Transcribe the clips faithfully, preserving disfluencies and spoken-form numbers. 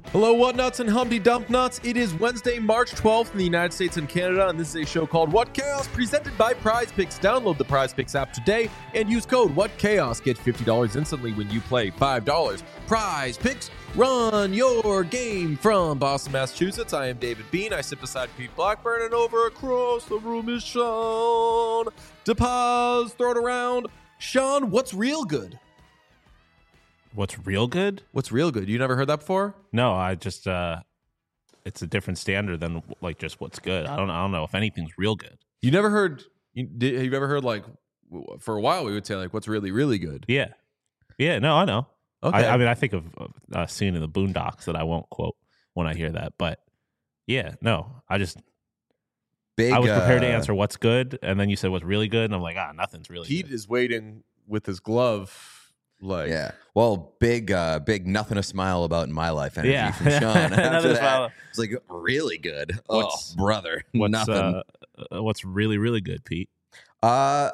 Hello, What Nuts and Humpty Dump Nuts. It is Wednesday, March twelfth in the United States and Canada, and this is a show called What Chaos, presented by Prize Picks. Download the Prize Picks app today and use code What Chaos. Get fifty dollars instantly when you play five dollars. Prize Picks, run your game from Boston, Massachusetts. I am David Bean. I sit beside Pete Blackburn, and over across the room is Sean DePaz. Throw it around. Sean, what's real good? What's real good? What's real good? You never heard that before? No, I just uh it's a different standard than like just what's good. I don't I don't know if anything's real good. You never heard you, did, have you ever heard like for a while we would say like what's really really good? Yeah. Yeah, no, I know. Okay. I, I mean I think of a scene in the Boondocks that I won't quote when I hear that, but yeah, no. I just Big, I was prepared uh, to answer what's good, and then you said what's really good, and I'm like, ah, nothing's really Pete good. is waiting with his glove like Yeah. Well, big, uh, big nothing to smile about in my life energy Yeah. from Sean. Nothing After to that, smile. it's like really good. What's- oh, brother. What's nothing. uh, uh, what's really really good, Pete? Uh,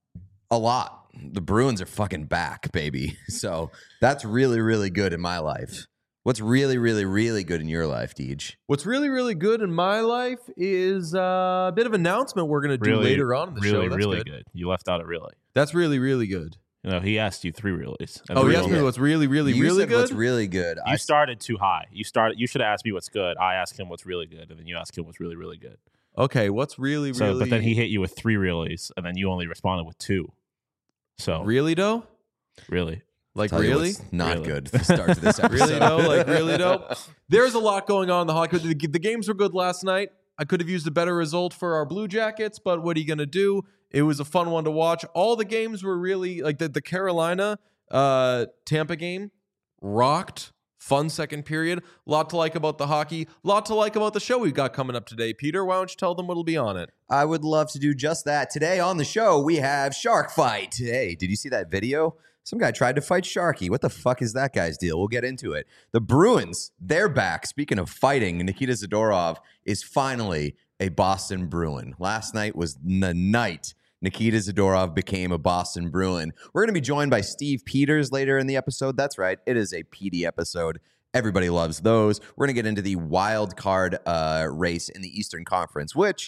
a lot. The Bruins are fucking back, baby. So that's really, really good in my life. What's really, really, really good in your life, Deej? What's really really good in my life is uh, a bit of announcement we're going to do Really, later on in the really, show. That's really good. good. You left out a really. That's really really good. You know, he asked you three reallys. and Oh, three he asked me only. what's really really you really said good. what's really good. You I started too high. You started. You should have asked me what's good. I asked him what's really good, and then you asked him what's really, really good. Okay, what's really So, really but then he hit you with three reallys, and then you only responded with two. So really though? really, Like tell you really? what's not Really. good to start to this episode. Really though? Like really though? There's a lot going on in the hockey. The, the games were good last night. I could have used a better result for our Blue Jackets, but what are you gonna do? It was a fun one to watch. All the games were really like the, the Carolina uh, Tampa game rocked. Fun second period. Lot to like about the hockey. Lot to like about the show we've got coming up today. Peter, why don't you tell them what'll be on it? I would love to do just that. Today on the show, we have Shark Fight. Hey, did you see that video? Some guy tried to fight Sharky. What the fuck is that guy's deal? We'll get into it. The Bruins, they're back. Speaking of fighting, Nikita Zadorov is finally a Boston Bruin. Last night was the night Nikita Zadorov became a Boston Bruin. We're going to be joined by Steve Peters later in the episode. That's right. It is a P D episode. Everybody loves those. We're going to get into the wild card uh, race in the Eastern Conference, which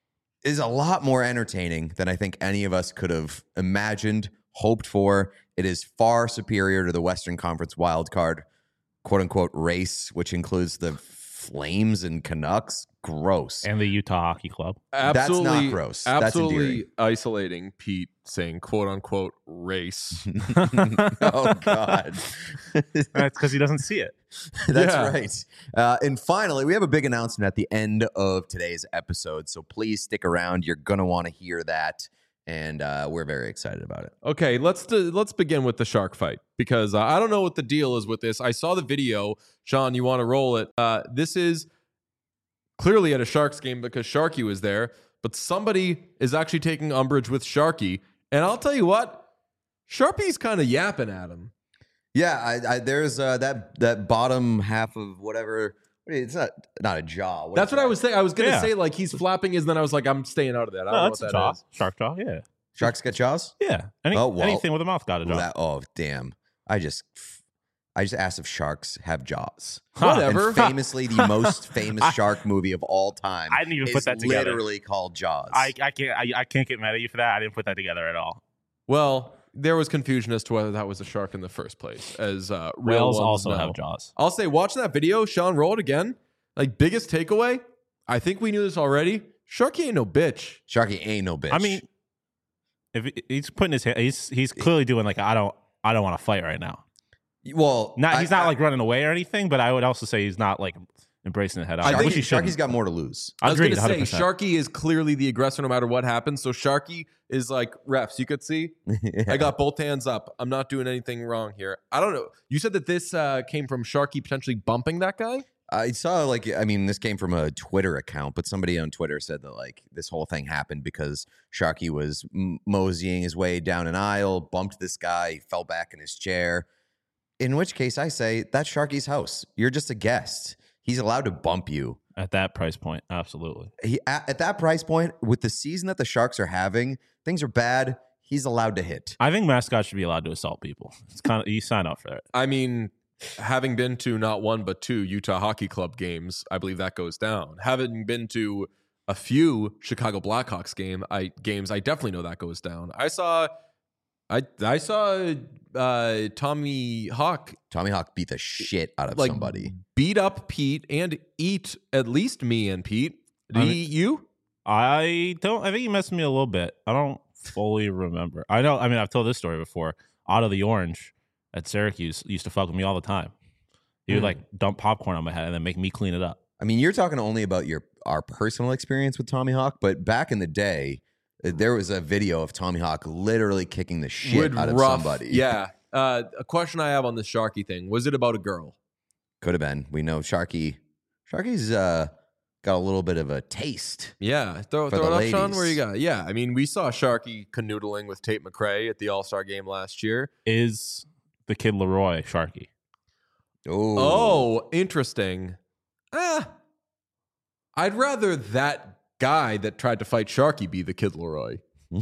is a lot more entertaining than I think any of us could have imagined, hoped for. It is far superior to the Western Conference wild card, quote unquote, race, which includes the Flames and Canucks. Gross. and the Utah Hockey Club. Absolutely, That's not gross. That's Absolutely endearing. isolating Pete saying "quote unquote" race. Oh, God. That's because he doesn't see it. That's Yeah. right. Uh, and finally, we have a big announcement at the end of today's episode. So please stick around. You're going to want to hear that. And uh, we're very excited about it. Okay, let's do, let's begin with the shark fight because uh, I don't know what the deal is with this. I saw the video, Sean. You want to roll it? Uh, this is clearly at a Sharks game because Sharky was there, but somebody is actually taking umbrage with Sharky, and I'll tell you what, Sharpie's kind of yapping at him. Yeah, I, I, there's uh, that that bottom half of whatever. It's not not a jaw. What That's is what I that? was saying. I was gonna Yeah. say like he's flapping his, and then I was like, I'm staying out of that. I don't No, know that's what a that jaw. is. Shark jaw. Yeah. Sharks got jaws? Yeah. Any, Oh, well. anything with a mouth got a jaw. That, oh, damn. I just I just asked if sharks have jaws. Whatever. And famously, the most famous shark movie of all time. I didn't even is put that together. literally called Jaws. I, I can't. I, I can't get mad at you for that. I didn't put that together at all. Well, there was confusion as to whether that was a shark in the first place. As uh, real Whales ones also know. have jaws. I'll say, watching that video, Sean, roll it again. Like, biggest takeaway, I think we knew this already. Sharky ain't no bitch. Sharky ain't no bitch. I mean, if he- he's putting his hand, he's he's clearly doing like I don't I don't want to fight right now. well, Not I- he's not I- like running away or anything, but I would also say he's not like embracing it head on. I think which he shouldn't. Sharky's got more to lose. I was Agreed, going to one say, hundred percent. Sharky is clearly the aggressor no matter what happens. So Sharky is like, refs, you could see, I got both hands up. I'm not doing anything wrong here. I don't know. You said that this uh, came from Sharky potentially bumping that guy? I saw like I mean this came from a Twitter account, but somebody on Twitter said that like this whole thing happened because Sharky was m- moseying his way down an aisle, bumped this guy, he fell back in his chair. In which case, I say that's Sharky's house. You're just a guest. He's allowed to bump you. At that price point, absolutely. He at, at that price point, with the season that the Sharks are having, things are bad. He's allowed to hit. I think mascots should be allowed to assault people. It's kind of you sign up for it. I mean, having been to not one but two Utah Hockey Club games, I believe that goes down. Having been to a few Chicago Blackhawks game, I games, I definitely know that goes down. I saw, I I saw uh, Tommy Hawk Tommy Hawk beat the shit out of like somebody. beat up Pete and eat at least me and Pete. Did I he mean- eat you? I don't. I think he messed me a little bit. I don't fully remember. I know. I mean, I've told this story before. Otto the Orange at Syracuse used to fuck with me all the time. He would Hmm. like dump popcorn on my head and then make me clean it up. I mean, you're talking only about your our personal experience with Tommy Hawk, but back in the day, uh, there was a video of Tommy Hawk literally kicking the shit Would out of rough- somebody. Yeah. Uh, a question I have on this Sharky thing. Was it about a girl? Could have been. We know Sharky. Sharky's uh, got a little bit of a taste. Yeah. Throw, For throw it the up, Sean. ladies. Where you got? Yeah. I mean, we saw Sharky canoodling with Tate McRae at the All-Star game last year. Is the kid Leroy Sharky? Oh, Oh, interesting. Ah, I'd rather that guy that tried to fight Sharky be the Kid Leroy.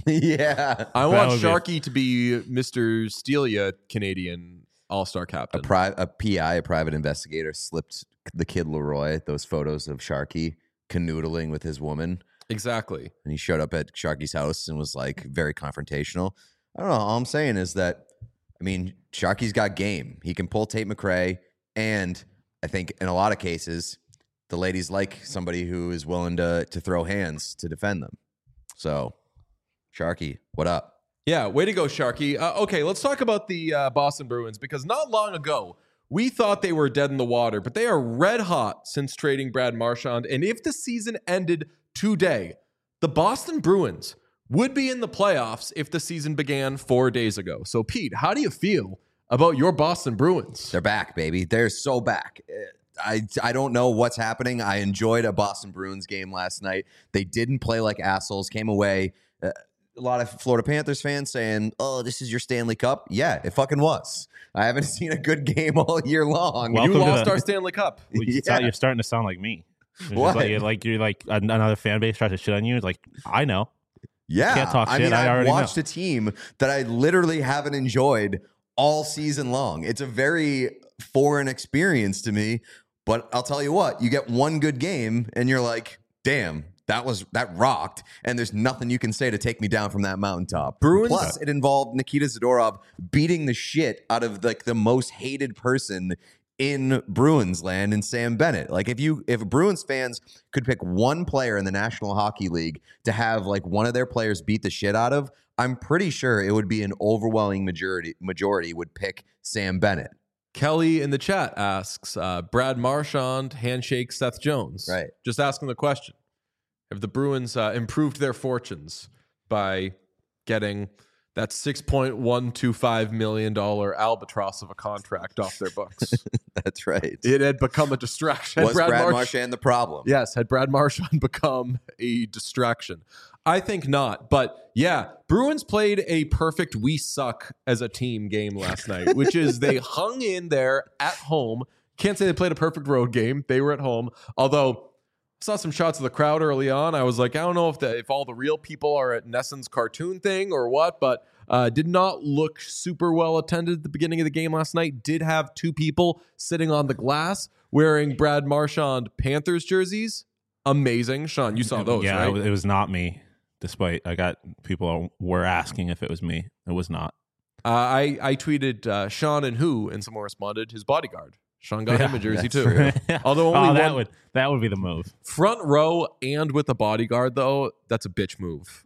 yeah. I That want would be- Sharky to be Mister Stelia, Canadian All-Star A, captain. pri- a P I, a private investigator, slipped the kid Leroy those photos of Sharky canoodling with his woman, exactly. and he showed up at Sharky's house and was like very confrontational. I don't know. All I'm saying is that, I mean, Sharky's got game. He can pull Tate McRae, and I think in a lot of cases, the ladies like somebody who is willing to to throw hands to defend them. So, Sharky, what up? Yeah, way to go, Sharky. Uh, okay, let's talk about the uh, Boston Bruins, because not long ago, we thought they were dead in the water, but they are red hot since trading Brad Marchand. And if the season ended today, the Boston Bruins would be in the playoffs if the season began four days ago. So, Pete, how do you feel about your Boston Bruins? They're back, baby. They're so back. Uh, I, I don't know what's happening. I enjoyed a Boston Bruins game last night. They didn't play like assholes, came away. Uh, a lot of Florida Panthers fans saying, oh, this is your Stanley Cup. Yeah, it fucking was. I haven't seen a good game all year long. Welcome you to lost the- our Stanley Cup. Well, you Yeah. You're starting to sound like me. It's just What? Like, you're like you're like an- another fan base tries to shit on you. It's like I know. Yeah. Can't talk I shit. mean, I I've already watched know. a team that I literally haven't enjoyed all season long. It's a very foreign experience to me, but I'll tell you what, you get one good game and you're like, damn, that was that rocked, and there's nothing you can say to take me down from that mountaintop. Bruins- Plus, it involved Nikita Zadorov beating the shit out of like the most hated person in Bruins land, in Sam Bennett. Like if you if Bruins fans could pick one player in the National Hockey League to have like one of their players beat the shit out of, I'm pretty sure it would be an overwhelming majority majority would pick Sam Bennett. Kelly in the chat asks, uh, Brad Marchand, handshake Seth Jones. Right. Just asking the question. Have the Bruins uh, improved their fortunes by getting that six point one two five million dollars albatross of a contract off their books? That's right. It had become a distraction. Was Brad, March- Marchand the problem? Yes, had Brad Marchand become a distraction? I think not. But yeah, Bruins played a perfect we suck as a team game last night, which is they hung in there at home. Can't say they played a perfect road game. They were at home. Although I saw some shots of the crowd early on. I was like, I don't know if the, if all the real people are at Nesson's cartoon thing or what, but uh, did not look super well attended at the beginning of the game last night. Did have two people sitting on the glass wearing Brad Marchand Panthers jerseys. Amazing. Sean, you saw those, yeah, right? it, was, it was not me. Despite I got people were asking if it was me. It was not. Uh, I, I tweeted uh, Sean and who, and someone responded, his bodyguard. Sean got him a Yeah, jersey that's too. true. Although only oh, that one- would that would be the move. Front row and with a bodyguard, though, that's a bitch move.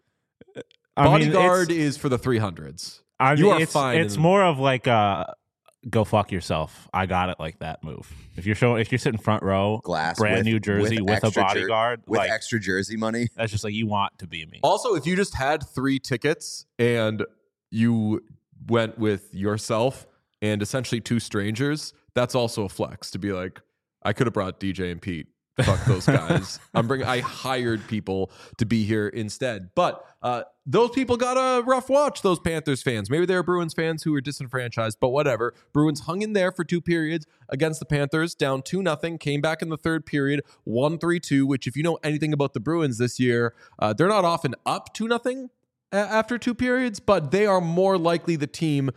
I mean, Bodyguard it's- is for the three hundreds. I You mean, are it's, fine It's in- more of like uh go fuck yourself. I got it like that move. If you're showing, if you're sitting front row, Glass brand with- new jersey with, a extra jer- bodyguard, with like extra jersey money. that's just like you want to be me. Also, if you just had three tickets and you went with yourself and essentially two strangers, that's also a flex to be like, I could have brought D J and Pete. Fuck those guys. I'm bringing. I hired people to be here instead. But uh, those people got a rough watch. Those Panthers fans. Maybe they're Bruins fans who were disenfranchised, but whatever. Bruins hung in there for two periods against the Panthers, down two nothing. Came back in the third period, one three two. Which, if you know anything about the Bruins this year, uh, they're not often up two nothing after two periods, but they are more likely the team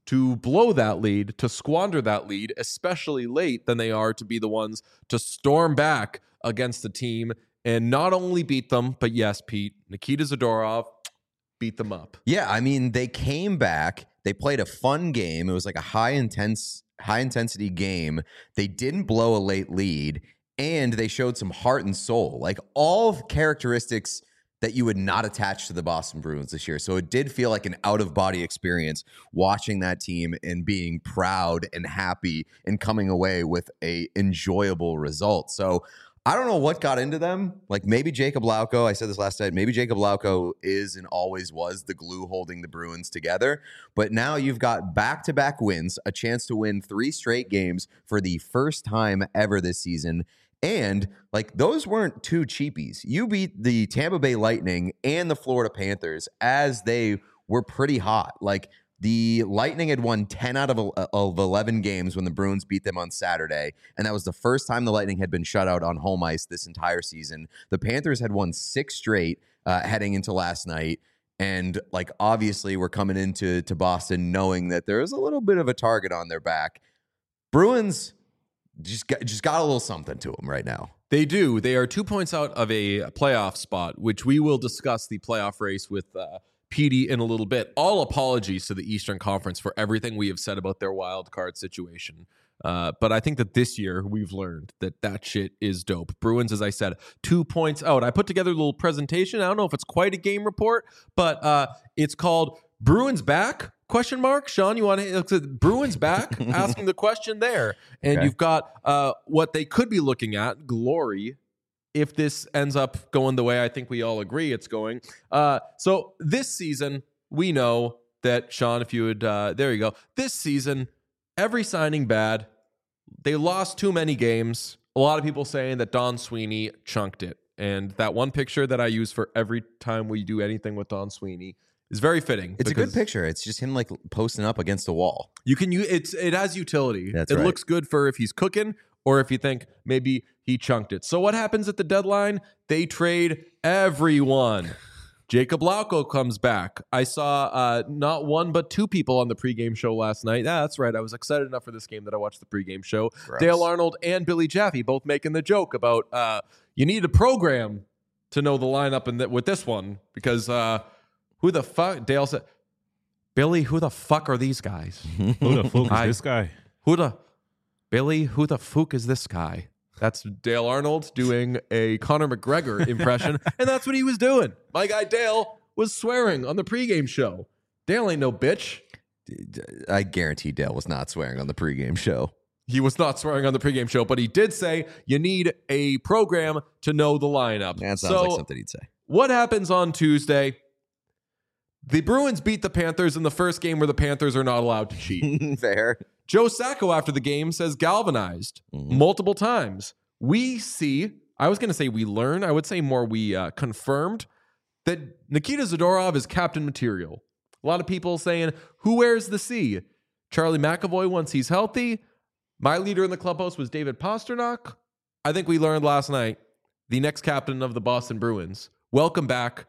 to blow that lead, to squander that lead, especially late, than they are to be the ones to storm back against the team and not only beat them, but yes, Pete, Nikita Zadorov beat them up. Yeah, I mean, they came back. They played a fun game. It was like a high intense, high intensity game. They didn't blow a late lead, and they showed some heart and soul, like all characteristics that you would not attach to the Boston Bruins this year. So it did feel like an out-of-body experience watching that team and being proud and happy and coming away with a enjoyable result. So I don't know what got into them. Like maybe Jacob Lauko, I said this last night, maybe Jacob Lauko is and always was the glue holding the Bruins together. But now you've got back-to-back wins, a chance to win three straight games for the first time ever this season. And like those weren't two cheapies. You beat the Tampa Bay Lightning and the Florida Panthers as they were pretty hot. Like the Lightning had won ten out of, of eleven games when the Bruins beat them on Saturday. And that was the first time the Lightning had been shut out on home ice this entire season. The Panthers had won six straight uh, heading into last night. And like obviously we're coming into to Boston knowing that there is a little bit of a target on their back. Bruins just got, just got a little something to them right now. They do. They are two points out of a playoff spot, which we will discuss the playoff race with uh, Petey in a little bit. All apologies to the Eastern Conference for everything we have said about their wild card situation. Uh, but I think that this year we've learned that that shit is dope. Bruins, as I said, two points out. I put together a little presentation. I don't know if it's quite a game report, but uh, it's called Bruins Back? Question mark. Sean, you want to Bruins back? Asking the question there. And okay. You've got uh, what they could be looking at, glory, if this ends up going the way I think we all agree it's going. Uh, so this season, we know that, Sean, if you would, uh, there you go. This season, every signing bad. They lost too many games. A lot of people saying that Don Sweeney chunked it. And that one picture that I use for every time we do anything with Don Sweeney is very fitting. It's a good picture. It's just him like posting up against a wall. You can use it's it has utility. That's it right. looks good for if he's cooking or if you think maybe he chunked it. So what happens at the deadline? They trade everyone. Jacob Lauko comes back. I saw uh, not one but two people on the pregame show last night. Yeah, that's right. I was excited enough for this game that I watched the pregame show. Gross. Dale Arnold and Billy Jaffe both making the joke about uh, you need a program to know the lineup in th- with this one because. Uh, Who the fuck? Dale said, Billy, who the fuck are these guys? Who the fuck is I, this guy? Who the, Billy, who the fuck is this guy? That's Dale Arnold doing a Conor McGregor impression, and that's what he was doing. My guy Dale was swearing on the pregame show. Dale ain't no bitch. I guarantee Dale was not swearing on the pregame show. He was not swearing on the pregame show, but he did say you need a program to know the lineup. That sounds so, like something he'd say. What happens on Tuesday? The Bruins beat the Panthers in the first game where the Panthers are not allowed to cheat. Fair. Joe Sacco after the game says galvanized mm-hmm. multiple times. We see, I was going to say we learn, I would say more we uh, confirmed that Nikita Zadorov is captain material. A lot of people saying, who wears the C? Charlie McAvoy once he's healthy. My leader in the clubhouse was David Pastrnak. I think we learned last night the next captain of the Boston Bruins. Welcome back.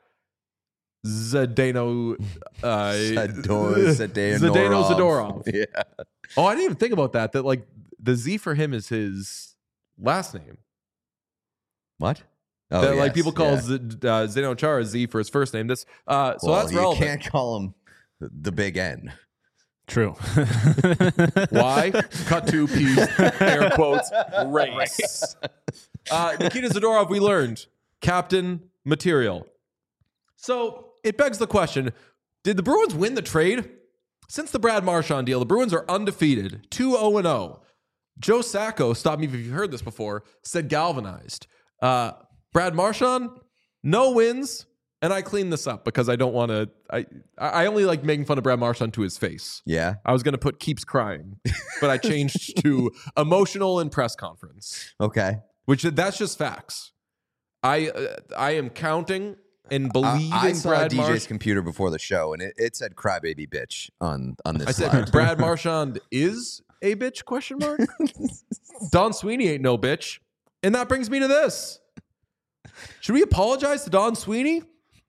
Zdeno, uh, Zador, Zdeno, Zdeno Zadorov. Yeah. Oh, I didn't even think about that. That like the Z for him is his last name. What? Oh, that, yes, like people call yeah. Z, uh, Zdeno Chara Z for his first name. This, uh, so well, that's you relevant. You can't call him the Big N. True. Why? Cut to P's air quotes race. Uh, Nikita Zadorov, we learned captain material. So it begs the question, did the Bruins win the trade? Since the Brad Marchand deal, the Bruins are undefeated, two oh and oh. Joe Sacco, stop me if you've heard this before, said galvanized. Uh, Brad Marchand, no wins, and I cleaned this up because I don't want to, I I only like making fun of Brad Marchand to his face. Yeah. I was going to put keeps crying, but I changed to emotional in press conference. Okay. Which that's just facts. I uh, I am counting and believing I, I saw Brad D J's March- computer before the show, and it, it said "crybaby bitch" on on this. I said slide. Brad Marchand is a bitch? Question mark. Don Sweeney ain't no bitch, and that brings me to this: should we apologize to Don Sweeney?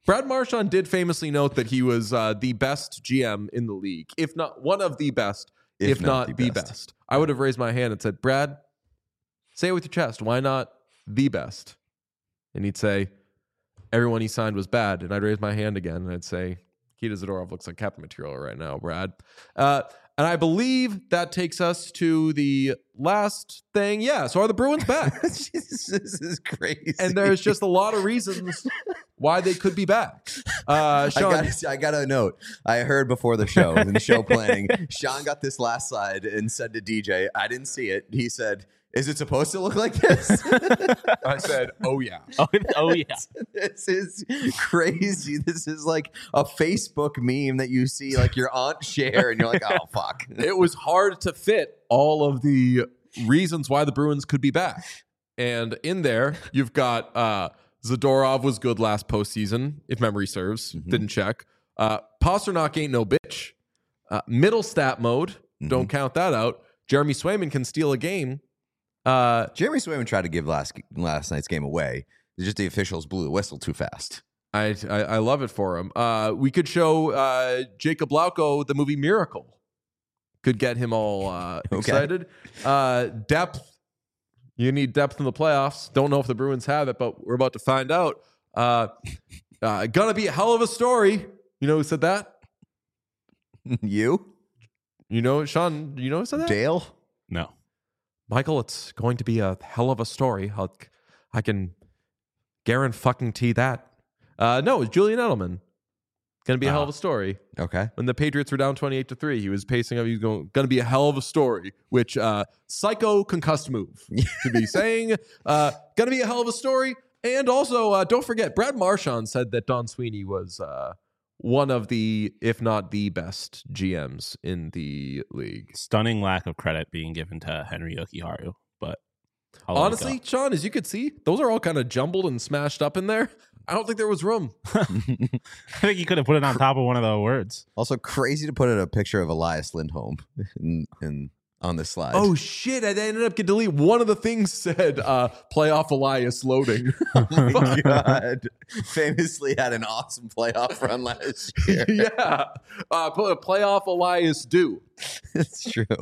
Brad Marchand did famously note that he was uh, the best G M in the league, if not one of the best, if, if not, not the, the best. best. I would have raised my hand and said, Brad, say it with your chest. Why not the best? And he'd say, everyone he signed was bad. And I'd raise my hand again and I'd say, Nikita Zadorov looks like Captain Material right now, Brad. Uh, and I believe that takes us to the last thing. Yeah, so are the Bruins back? Jesus, this is crazy. And there's just a lot of reasons why they could be back. Uh, Sean, I got, I got a note. I heard before the show, in the show planning, Sean got this last slide and said to D J, I didn't see it. He said, is it supposed to look like this? I said, oh, yeah. Oh, oh, yeah. This is crazy. This is like a Facebook meme that you see like your aunt share and you're like, oh, fuck. It was hard to fit all of the reasons why the Bruins could be back. And in there, you've got uh, Zadorov was good last postseason, if memory serves. Mm-hmm. Didn't check. Uh, Pasternak ain't no bitch. Uh, middle stat mode. Mm-hmm. Don't count that out. Jeremy Swayman can steal a game. Uh, Jeremy Swayman tried to give last last night's game away. It's just the officials blew the whistle too fast. I I, I love it for him. Uh, we could show uh, Jacob Lauko the movie Miracle. Could get him all uh, okay. excited. Uh, depth. You need depth in the playoffs. Don't know if the Bruins have it, but we're about to find out. Uh, uh, gonna be a hell of a story. You know who said that? You? You know, Sean, you know who said that? Dale? No. Michael, it's going to be a hell of a story. I'll, I can guarantee that. Uh, no, it's Julian Edelman. Going to be a uh, hell of a story. Okay. When the Patriots were down twenty-eight to three, he was pacing up. He was going, going to be a hell of a story, which uh, psycho concussed move to be saying. Uh, going to be a hell of a story. And also, uh, don't forget, Brad Marchand said that Don Sweeney was uh, one of the, if not the best G Ms in the league. Stunning lack of credit being given to Henry Yokiharu, but I'll honestly, Sean, as you could see, those are all kind of jumbled and smashed up in there. I don't think there was room. I think you could have put it on top of one of the words. Also, crazy to put in a picture of Elias Lindholm in, in on this slide. Oh shit! I ended up getting deleted. One of the things said uh, "playoff Elias loading." Oh my god! Famously had an awesome playoff run last year. Yeah, uh, playoff Elias do. It's true.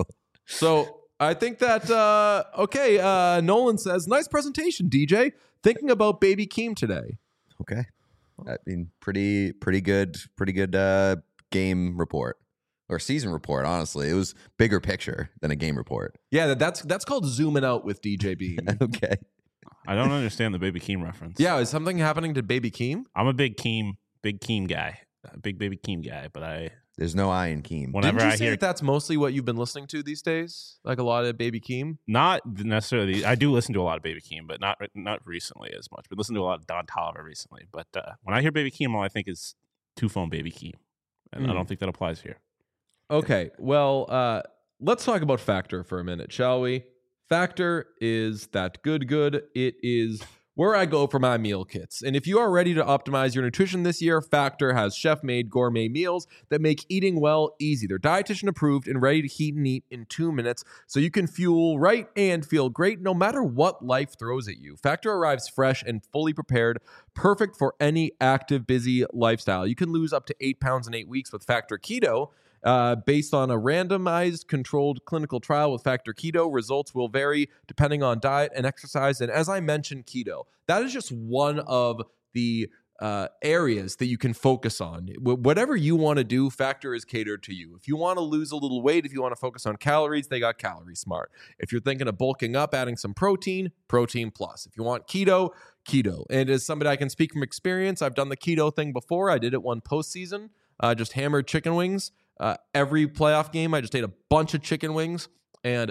So I think that uh, okay. Uh, Nolan says, "Nice presentation, D J. Thinking about Baby Keem today." Okay, I mean, pretty pretty good, pretty good uh, game report. Or season report, honestly. It was bigger picture than a game report. Yeah, that's that's called zooming out with D J Beam. Okay. I don't understand the Baby Keem reference. Yeah, is something happening to Baby Keem? I'm a big Keem, big Keem guy. A big Baby Keem guy, but I... There's no I in Keem. Whenever Didn't you I say hear that that's mostly what you've been listening to these days? Like a lot of Baby Keem? Not necessarily. I do listen to a lot of Baby Keem, but not not recently as much. But listen to a lot of Don Toliver recently. But uh, when I hear Baby Keem, all I think is two-phone Baby Keem. And mm. I don't think that applies here. Okay, well, uh, let's talk about Factor for a minute, shall we? Factor is that good good. It is where I go for my meal kits. And if you are ready to optimize your nutrition this year, Factor has chef-made gourmet meals that make eating well easy. They're dietitian approved and ready to heat and eat in two minutes, so you can fuel right and feel great no matter what life throws at you. Factor arrives fresh and fully prepared, perfect for any active, busy lifestyle. You can lose up to eight pounds in eight weeks with Factor Keto. Uh, based on a randomized controlled clinical trial with Factor Keto, results will vary depending on diet and exercise. And as I mentioned, keto, that is just one of the uh, areas that you can focus on. W- whatever you want to do, Factor is catered to you. If you want to lose a little weight, if you want to focus on calories, they got Calorie Smart. If you're thinking of bulking up, adding some protein, Protein Plus. If you want keto, keto. And as somebody I can speak from experience, I've done the keto thing before. I did it one postseason, uh, just hammered chicken wings. Uh, every playoff game, I just ate a bunch of chicken wings, and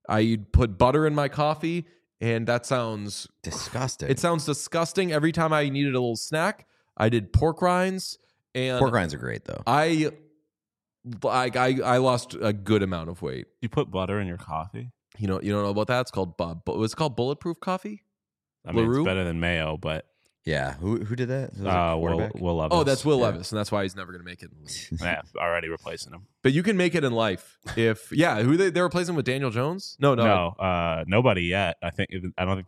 I put butter in my coffee, and that sounds disgusting. It sounds disgusting. Every time I needed a little snack, I did pork rinds, and pork rinds are great though. I like I I lost a good amount of weight. You put butter in your coffee? You know you don't know about that? It's called uh, it's called bulletproof coffee. I mean, it's better than mayo, but. Yeah, who who did that? Uh, Will, Will Levis. Oh, that's Will yeah. Levis, and that's why he's never going to make it. Yeah, already replacing him. But you can make it in life if yeah. Who they they're replacing with Daniel Jones? No, no, no. Uh, nobody yet. I think I don't think they've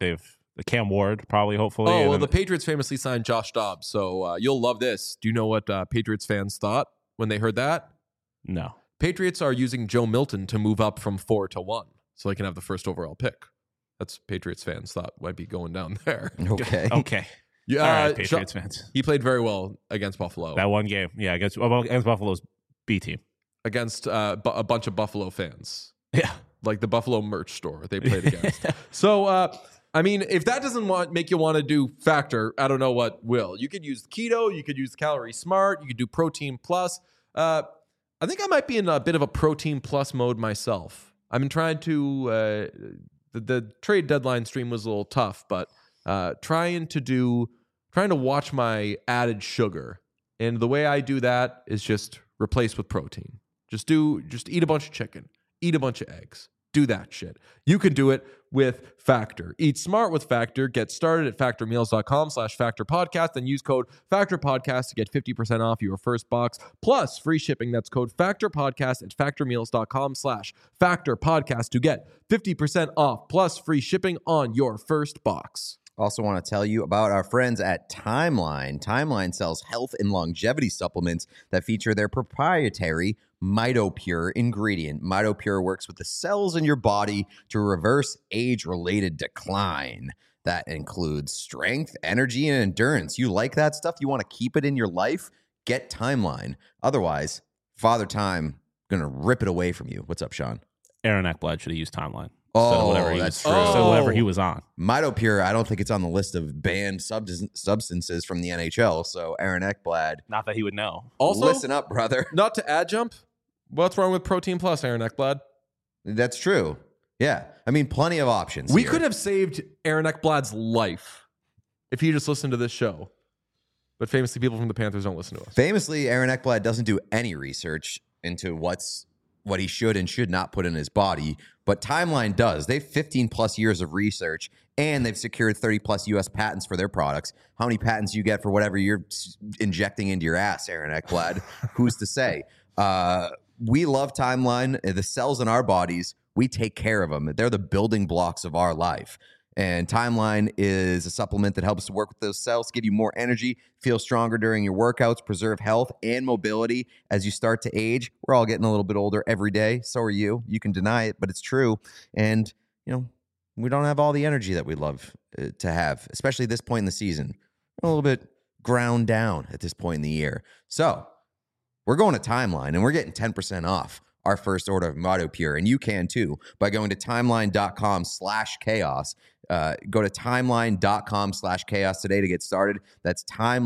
the Cam Ward, probably, hopefully. Oh, and well, then- the Patriots famously signed Josh Dobbs, so uh, you'll love this. Do you know what uh, Patriots fans thought when they heard that? no. Patriots are using Joe Milton to move up from four to one, so they can have the first overall pick. That's Patriots fans thought might be going down there. Okay. Okay. Yeah, All right, uh, Patriots Sha- fans. He played very well against Buffalo. That one game. Yeah, against, well, against Buffalo's B team. against uh, bu- a bunch of Buffalo fans, Yeah. like the Buffalo merch store they played against. So, uh, I mean, if that doesn't want make you want to do Factor, I don't know what will. You could use keto, you could use Calorie Smart, you could do Protein Plus. Uh, I think I might be in a bit of a Protein Plus mode myself. I've been trying to. Uh, the, the trade deadline stream was a little tough, but uh, trying to do, trying to watch my added sugar, and the way I do that is just replace with protein. Just do, just eat a bunch of chicken, eat a bunch of eggs, do that shit. You can do it with Factor. Eat smart with Factor. Get started at factormeals.com slash factor podcast and use code Factor Podcast to get fifty percent off your first box plus free shipping. That's code Factor Podcast at factormeals.com slash factor podcast to get fifty percent off plus free shipping on your first box. Also want to tell you about our friends at Timeline. Timeline sells health and longevity supplements that feature their proprietary MitoPure ingredient. MitoPure works with the cells in your body to reverse age-related decline. That includes strength, energy, and endurance. You like that stuff? You want to keep it in your life? Get Timeline. Otherwise, Father Time going to rip it away from you. What's up, Sean? Aaron Eckblad should have used Timeline. Oh, so whatever he that's was, true. So whatever he Oh. was on. MitoPure, I don't think it's on the list of banned sub- substances from the N H L. So Aaron Eckblad, Not that he would know. Also, listen up, brother. not to add jump, what's wrong with Protein Plus, Aaron Eckblad? That's true. Yeah. I mean, plenty of options. We here. could have saved Aaron Eckblad's life if he just listened to this show. But famously, people from the Panthers don't listen to us. Famously, Aaron Eckblad doesn't do any research into what's what he should and should not put in his body, but Timeline does. They have fifteen plus years of research, and they've secured thirty plus U S patents for their products. How many patents you get for whatever you're s- injecting into your ass, Aaron Eckblad? Who's to say? Uh, we love Timeline. The cells in our bodies, we take care of them. They're the building blocks of our life. And Timeline is a supplement that helps to work with those cells, give you more energy, feel stronger during your workouts, preserve health and mobility as you start to age. We're all getting a little bit older every day. So are you. You can deny it, but it's true. And, you know, we don't have all the energy that we'd love uh, to have, especially this point in the season. We're a little bit ground down at this point in the year. So we're going to Timeline, and we're getting ten percent off our first order of MitoPure, and you can too by going to timeline.com slash chaos. Uh, go to timeline.com slash chaos today to get started. That's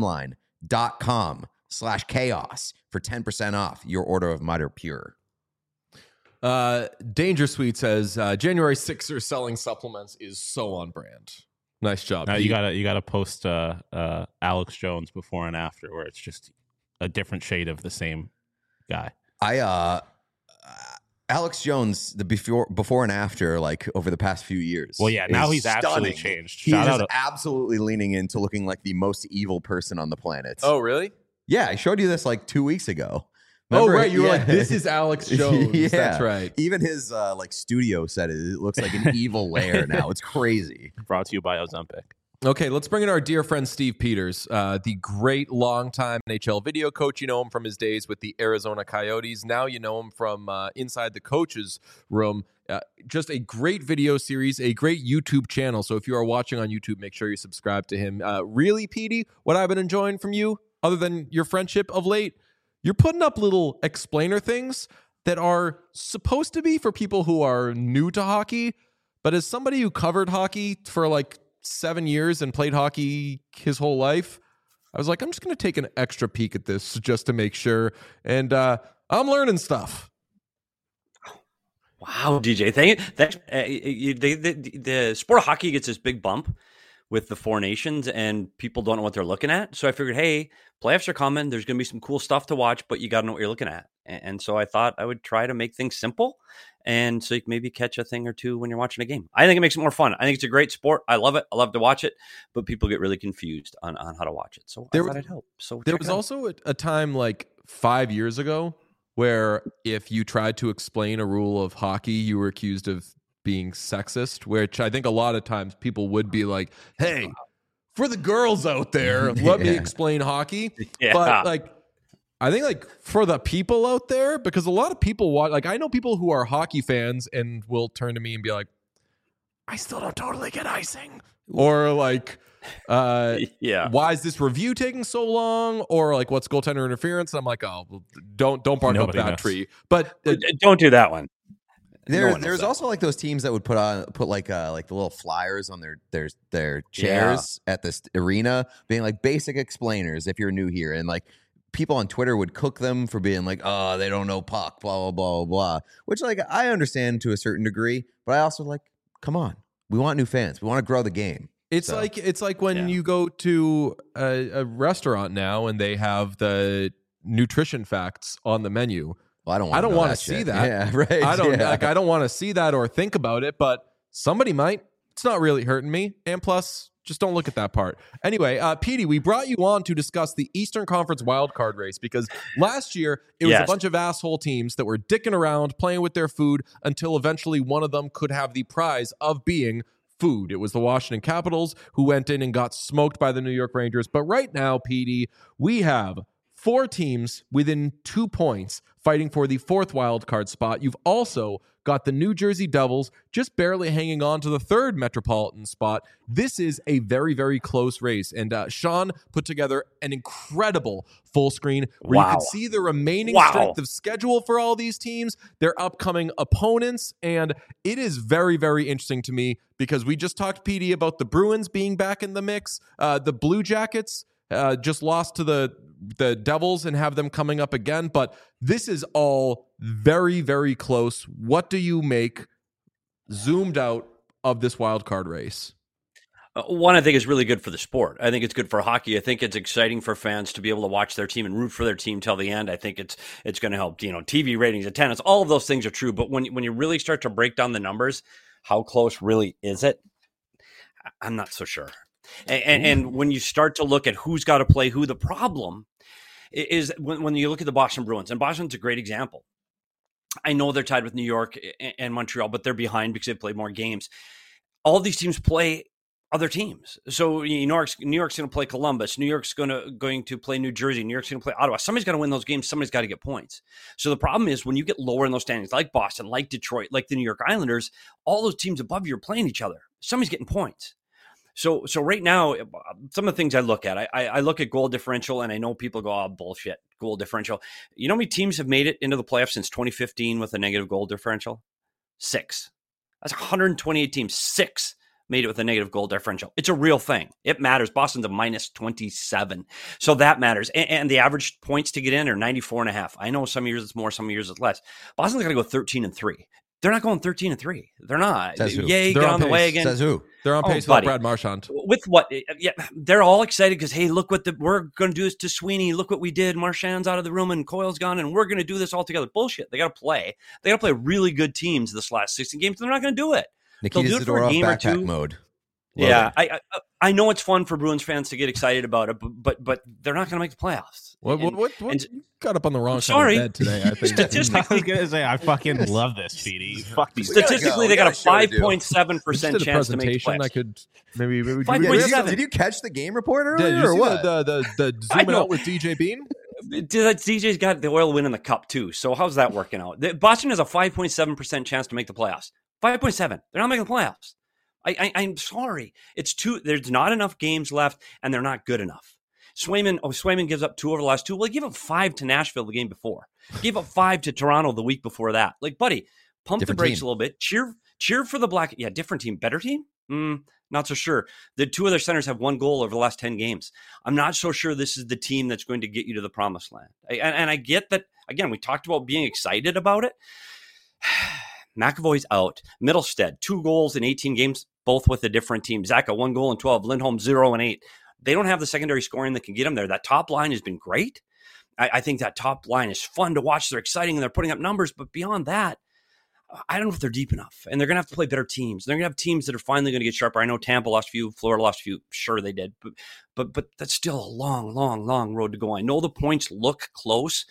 timeline.com slash chaos for ten percent off your order of MitoPure. Uh, Danger Sweet says uh, January Sixers selling supplements is so on brand. Nice job. Now Pete. you gotta you gotta post uh, uh, Alex Jones before and after, where it's just a different shade of the same guy. I uh Alex Jones, the before before and after, like over the past few years. Well, yeah, now is he's actually stunning. changed. He's Shout just out to- absolutely leaning into looking like the most evil person on the planet. Oh, really? Yeah, I showed you this like two weeks ago. Oh, Remember? right. You were Yeah. like, this is Alex Jones. Yeah. That's right. Even his uh, like studio set, it, it looks like an evil lair now. It's crazy. Brought to you by Ozempic. Okay, let's bring in our dear friend Steve Peters, uh, the great longtime N H L video coach. You know him from his days with the Arizona Coyotes. Now you know him from uh, inside the coach's room. Uh, just a great video series, a great YouTube channel. So if you are watching on YouTube, make sure you subscribe to him. Uh, really, Petey, what I've been enjoying from you, other than your friendship of late, you're putting up little explainer things that are supposed to be for people who are new to hockey. But as somebody who covered hockey for like seven years and played hockey his whole life, I was like, I'm just going to take an extra peek at this just to make sure. And uh, I'm learning stuff. Wow, D J, thank you. Thanks. Uh, you, the, the, the sport of hockey gets this big bump with the four nations, and people don't know what they're looking at. So I figured, hey, playoffs are coming. There's going to be some cool stuff to watch, but you got to know what you're looking at. And, and so I thought I would try to make things simple, and so you can maybe catch a thing or two when you're watching a game. I think it makes it more fun. I think it's a great sport. I love it. I love to watch it, but people get really confused on, on how to watch it. So There I was- thought I'd help. So There check was it out. also a, a time like five years ago where if you tried to explain a rule of hockey, you were accused of being sexist, which I think a lot of times people would be like, hey, for the girls out there, let me Yeah. explain hockey. Yeah. But like, I think like for the people out there, because a lot of people watch, like I know people who are hockey fans and will turn to me and be like, I still don't totally get icing. Or like, uh, Yeah. why is this review taking so long? Or like, what's goaltender interference? And I'm like, oh, well, don't don't bark Nobody up that knows. tree. But uh, Don't do that one. There, No one knows there's that. also like those teams that would put on put like uh like the little flyers on their their their chairs at this arena, being like basic explainers if you're new here, and like people on Twitter would cook them for being like, oh, they don't know puck, blah blah blah blah blah. Which like I understand to a certain degree, but I also like, come on, we want new fans, we want to grow the game. It's So, like it's like when Yeah. you go to a, a restaurant now and they have the nutrition facts on the menu. well, I don't want I don't know want to that see shit. that. Yeah, right. I don't yeah. like. I don't want to see that or think about it. But somebody might. It's not really hurting me. And plus, just don't look at that part. Anyway, uh, Petey, we brought you on to discuss the Eastern Conference wildcard race because last year it was Yes. a bunch of asshole teams that were dicking around, playing with their food until eventually one of them could have the prize of being food. It was the Washington Capitals who went in and got smoked by the New York Rangers. But right now, Petey, we have four teams within two points fighting for the fourth wild card spot. You've also got the New Jersey Devils just barely hanging on to the third Metropolitan spot. This is a very, very close race. And uh, Sean put together an incredible full screen where you Wow. could see the remaining Wow. strength of schedule for all these teams, their upcoming opponents. And it is very, very interesting to me because we just talked, Petey, about the Bruins being back in the mix. Uh, the Blue Jackets uh, just lost to the the Devils and have them coming up again. But this is all very, very close. What do you make zoomed out of this wild card race? Uh, One, I think is really good for the sport. I think it's good for hockey. I think it's exciting for fans to be able to watch their team and root for their team till the end. I think it's it's going to help, you know, T V ratings, attendance, all of those things are true. But when when you really start to break down the numbers, how close really is it? I- I'm not so sure. And, and, and when you start to look at who's got to play who, the problem i- is when, when you look at the Boston Bruins, and Boston's a great example. I know they're tied with New York and- and Montreal, but they're behind because they've played more games. All these teams play other teams. So New York's New York's going to play Columbus. New York's going to going to play New Jersey. New York's going to play Ottawa. Somebody's got to win those games. Somebody's got to get points. So the problem is when you get lower in those standings, like Boston, like Detroit, like the New York Islanders, all those teams above you are playing each other. Somebody's getting points. So so right now, some of the things I look at, I, I, I look at goal differential, and I know people go, oh, bullshit, goal differential. You know how many teams have made it into the playoffs since twenty fifteen with a negative goal differential? Six. That's one hundred twenty-eight teams. Six made it with a negative goal differential. It's a real thing. It matters. Boston's a minus twenty-seven. So that matters. And, and the average points to get in are ninety-four and a half. I know some years it's more, some years it's less. Boston's got to go thirteen and three. They're not going thirteen and three. They're not. Says who? Yay, They're get on on the way pace. again. Says who? They're on Oh, pace with buddy. Brad Marchand. With what? Yeah, they're all excited because, hey, look what the, we're going to do this to Sweeney. Look what we did. Marchand's out of the room and Coyle's gone, and we're going to do this all together. Bullshit. They got to play. They got to play really good teams this last sixteen games, and they're not going to do it. They'll Nikita do it for a Zadorov game or backpack two. mode. Love Yeah, it. I, I I know it's fun for Bruins fans to get excited about it, but but, but they're not going to make the playoffs. What, what, And- what, what? and- You got up on the wrong I'm side sorry. of bed today, I think. Statistic- I was gonna say I fucking love this, Petey. Fuck these. We gotta Statistically, go. they We got got a a show to five do. point seven We just percent did a chance to make the presentation. I playoffs. could maybe. maybe Five did, Yeah, you, did, you, seven. did you catch the game report yeah, earlier did you or see what? the the the, the I zooming know. out with D J Bean? D J's got the oil win in the cup too. So how's that working out? The- Boston has a five point seven percent chance to make the playoffs. five point seven. They're not making the playoffs. I, I, I'm sorry. It's too. There's not enough games left, and they're not good enough. Swayman. Oh, Swayman gives up two over the last two. Well, he gave up five to Nashville the game before. Gave up five to Toronto the week before that. Like, buddy, pump Different the brakes team. a little bit. Cheer, cheer for the Black. Yeah, different team, better team. Mm, not so sure. The two other centers have one goal over the last ten games. I'm not so sure this is the team that's going to get you to the promised land. I, and, and I get that. Again, we talked about being excited about it. McAvoy's out. Middlestead, two goals in eighteen games, both with a different team. Zaka, one goal in twelve. Lindholm, zero and eight. They don't have the secondary scoring that can get them there. That top line has been great. I, I think that top line is fun to watch. They're exciting and they're putting up numbers. But beyond that, I don't know if they're deep enough. And they're going to have to play better teams. They're going to have teams that are finally going to get sharper. I know Tampa lost a few, Florida lost a few. Sure, they did. But, but, but that's still a long, long, long road to go. I know the points look close.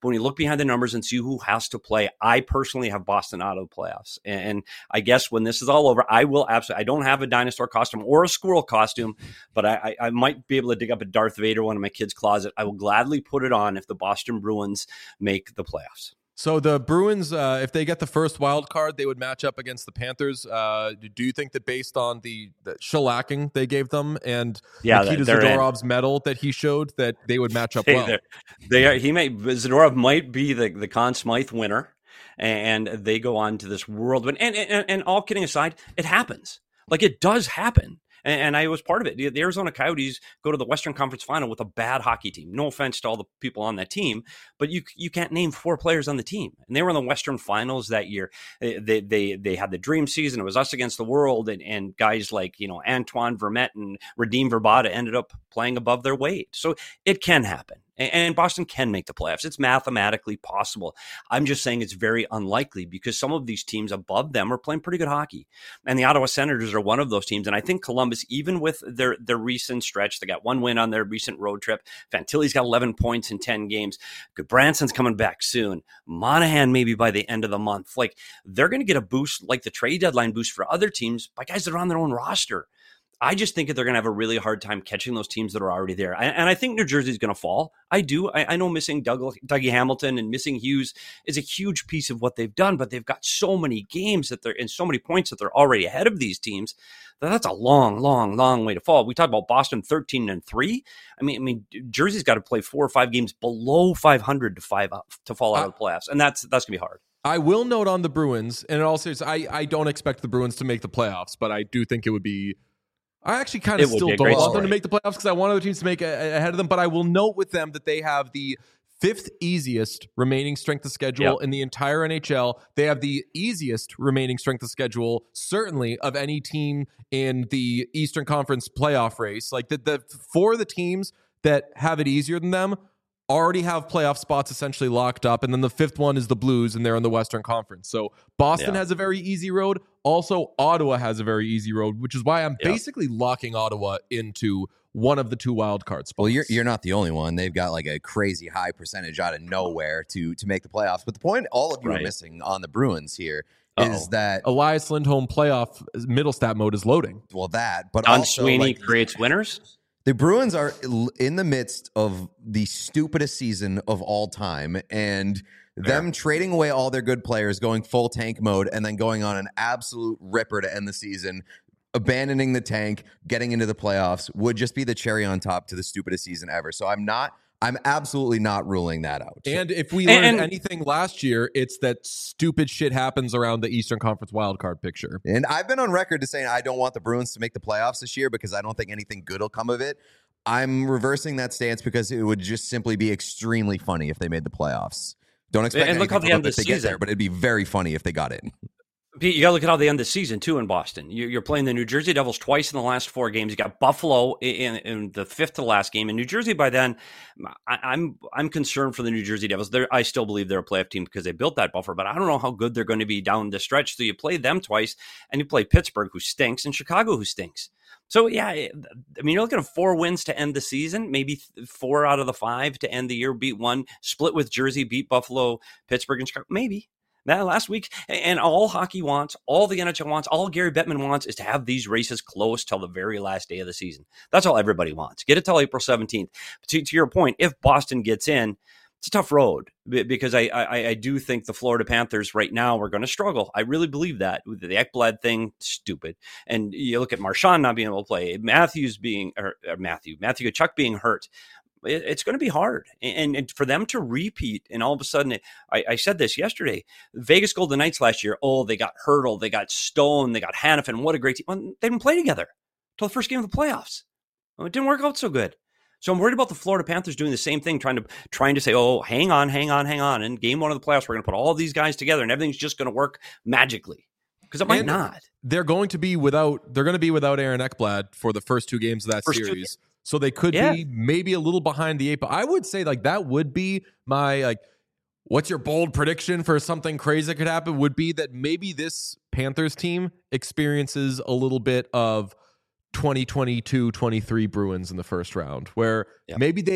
But when you look behind the numbers and see who has to play, I personally have Boston out of the playoffs. And I guess when this is all over, I will absolutely, I don't have a dinosaur costume or a squirrel costume, but I, I, I might be able to dig up a Darth Vader one in my kid's closet. I will gladly put it on if the Boston Bruins make the playoffs. So the Bruins, uh, if they get the first wild card, they would match up against the Panthers. Uh, do you think that based on the, the shellacking they gave them and yeah, Nikita Zadorov's in. medal that he showed, that they would match up they, well? They are. He may Zadorov might be the the Conn Smythe winner, and they go on to this world. And and and, and all kidding aside, it happens. Like it does happen. And I was part of it. The Arizona Coyotes go to the Western Conference Final with a bad hockey team. No offense to all the people on that team, but you you can't name four players on the team. And they were in the Western Finals that year. They they they had the dream season. It was us against the world, and, and guys like you know Antoine Vermette and Radim Verbata ended up playing above their weight. So it can happen. And Boston can make the playoffs. It's mathematically possible. I'm just saying it's very unlikely because some of these teams above them are playing pretty good hockey. And the Ottawa Senators are one of those teams. And I think Columbus, even with their, their recent stretch, they got one win on their recent road trip. Fantilli's got eleven points in ten games. Branson's coming back soon. Monahan maybe by the end of the month. Like they're going to get a boost like the trade deadline boost for other teams by guys that are on their own roster. I just think that they're going to have a really hard time catching those teams that are already there. And I think New Jersey's going to fall. I do. I, I know missing Doug, Dougie Hamilton and missing Hughes is a huge piece of what they've done, but they've got so many games that they're and so many points that they're already ahead of these teams that that's a long, long, long way to fall. We talked about Boston thirteen and three. I mean, I mean, Jersey's got to play four or five games below five hundred to five up to fall out uh, of the playoffs. And that's, that's gonna be hard. I will note on the Bruins, and in all seriousness, I, I don't expect the Bruins to make the playoffs, but I do think it would be, I actually kind of still don't want story. them to make the playoffs because I want other teams to make a, a, ahead of them. But I will note with them that they have the fifth easiest remaining strength of schedule yep. in the entire N H L. They have the easiest remaining strength of schedule, certainly, of any team in the Eastern Conference playoff race. Like the, the four of the teams that have it easier than them already have playoff spots essentially locked up. And then the fifth one is the Blues, and they're in the Western Conference. So Boston yeah. has a very easy road. Also, Ottawa has a very easy road, which is why I'm yeah. basically locking Ottawa into one of the two wild card spots. Well, you're you're not the only one. They've got like a crazy high percentage out of nowhere to to make the playoffs. But the point all of you right. are missing on the Bruins here Uh-oh. is that Elias Lindholm playoff middle stat mode is loading. Well, that, but Don also Sweeney like, creates winners. The Bruins are in the midst of the stupidest season of all time, and them yeah. trading away all their good players, going full tank mode, and then going on an absolute ripper to end the season, abandoning the tank, getting into the playoffs would just be the cherry on top to the stupidest season ever. So I'm not, I'm absolutely not ruling that out. And if we learned and, anything last year, it's that stupid shit happens around the Eastern Conference wildcard picture. And I've been on record to saying I don't want the Bruins to make the playoffs this year because I don't think anything good will come of it. I'm reversing that stance because it would just simply be extremely funny if they made the playoffs. Don't expect and look how anything the end if of they the get season. there, but it'd be very funny if they got in. Pete, you got to look at how they end the season, too, in Boston. You're playing the New Jersey Devils twice in the last four games. You got Buffalo in, in the fifth to last game. In New Jersey, by then, I, I'm I'm concerned for the New Jersey Devils. They're, I still believe they're a playoff team because they built that buffer, but I don't know how good they're going to be down the stretch. So you play them twice, and you play Pittsburgh, who stinks, and Chicago, who stinks. So, yeah, I mean, you're looking at four wins to end the season, maybe four out of the five to end the year, beat one, split with Jersey, beat Buffalo, Pittsburgh, and Chicago, maybe. That last week, and all hockey wants, all the N H L wants, all Gary Bettman wants is to have these races close till the very last day of the season. That's all everybody wants. Get it till April seventeenth. To, to your point, if Boston gets in, it's a tough road because I I, I do think the Florida Panthers right now are going to struggle. I really believe that. The Ekblad thing, stupid. And you look at Marchand not being able to play, Matthews being, or, or Matthew, Matthew Tkachuk being hurt. It's going to be hard. And, and for them to repeat, and all of a sudden, I, I said this yesterday, Vegas Golden Knights last year, oh, they got Hurdle, they got Stone, they got Hanifin. What a great team. Well, they didn't play together until the first game of the playoffs. Well, it didn't work out so good. So I'm worried about the Florida Panthers doing the same thing, trying to trying to say, oh, hang on, hang on, hang on. In game one of the playoffs, we're going to put all these guys together, and everything's just going to work magically. Because it might and not. They're going to be without, they're going to be without Aaron Ekblad for the first two games of that first series. Two, So they could yeah. be maybe a little behind the eight, but I would say like that would be my like, what's your bold prediction for something crazy that could happen? Would be that maybe this Panthers team experiences a little bit of twenty twenty-two twenty-three Bruins in the first round, where yeah. maybe they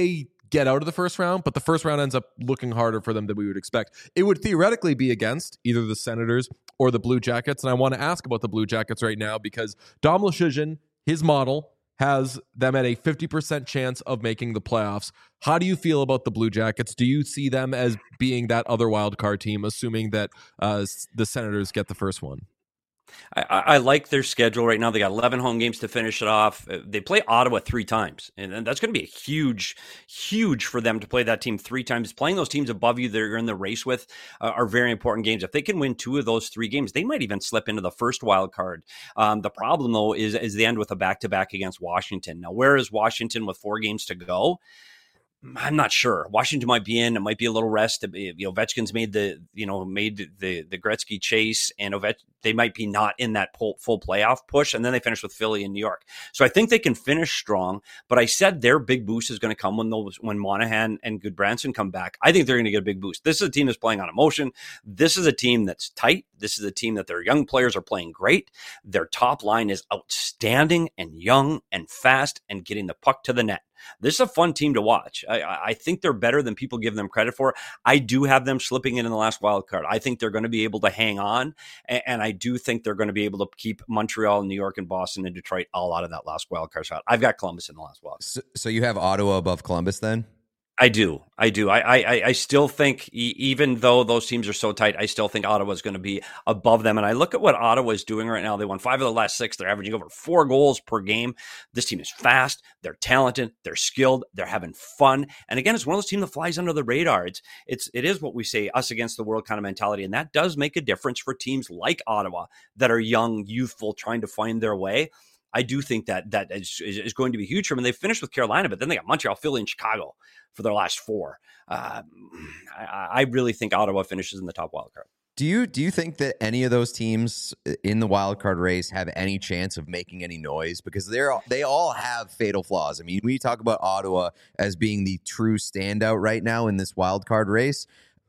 get out of the first round, but the first round ends up looking harder for them than we would expect. It would theoretically be against either the Senators or the Blue Jackets, and I want to ask about the Blue Jackets right now because Dom Luszczyszyn, his model, has them at a fifty percent chance of making the playoffs. How do you feel about the Blue Jackets? Do you see them as being that other wild card team, assuming that uh, the Senators get the first one? I, I like their schedule right now. They got eleven home games to finish it off. They play Ottawa three times, and that's going to be a huge, huge for them to play that team three times. Playing those teams above you that you're in the race with uh, are very important games. If they can win two of those three games, they might even slip into the first wild card. Um, the problem, though, is, is the end with a back-to-back against Washington. Now, where is Washington with four games to go? I'm not sure. Washington might be in. It might be a little rest. You know, Ovechkin's made the you know made the the Gretzky chase, and Ovech, they might be not in that full, full playoff push. And then they finish with Philly and New York. So I think they can finish strong. But I said their big boost is going to come when those when Monahan and Goodbranson come back. I think they're going to get a big boost. This is a team that's playing on emotion. This is a team that's tight. This is a team that their young players are playing great. Their top line is outstanding and young and fast and getting the puck to the net. This is a fun team to watch. I, I think they're better than people give them credit for. I do have them slipping in in the last wild card. I think they're going to be able to hang on, and, and I do think they're going to be able to keep Montreal, New York, and Boston and Detroit all out of that last wild card shot. I've got Columbus in the last wild. So, so you have Ottawa above Columbus then? I do. I do. I, I, I still think, even though those teams are so tight, I still think Ottawa is going to be above them. And I look at what Ottawa is doing right now. They won five of the last six. They're averaging over four goals per game. This team is fast. They're talented. They're skilled. They're having fun. And again, it's one of those teams that flies under the radar. It's, it's, it is what we say, us against the world kind of mentality. And that does make a difference for teams like Ottawa that are young, youthful, trying to find their way. I do think that that is, is going to be huge for them. And they finished with Carolina, but then they got Montreal, Philly, and Chicago for their last four. Uh, I, I really think Ottawa finishes in the top wild card. Do you do you think that any of those teams in the wild card race have any chance of making any noise? Because they're they all have fatal flaws. I mean, we talk about Ottawa as being the true standout right now in this wild card race.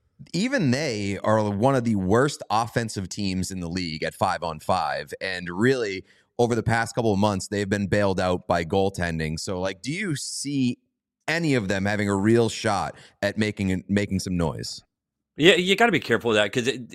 Even they are one of the worst offensive teams in the league at five on five, and really, over the past couple of months, they've been bailed out by goaltending. So, like, do you see any of them having a real shot at making making some noise? Yeah, you got to be careful with that because it,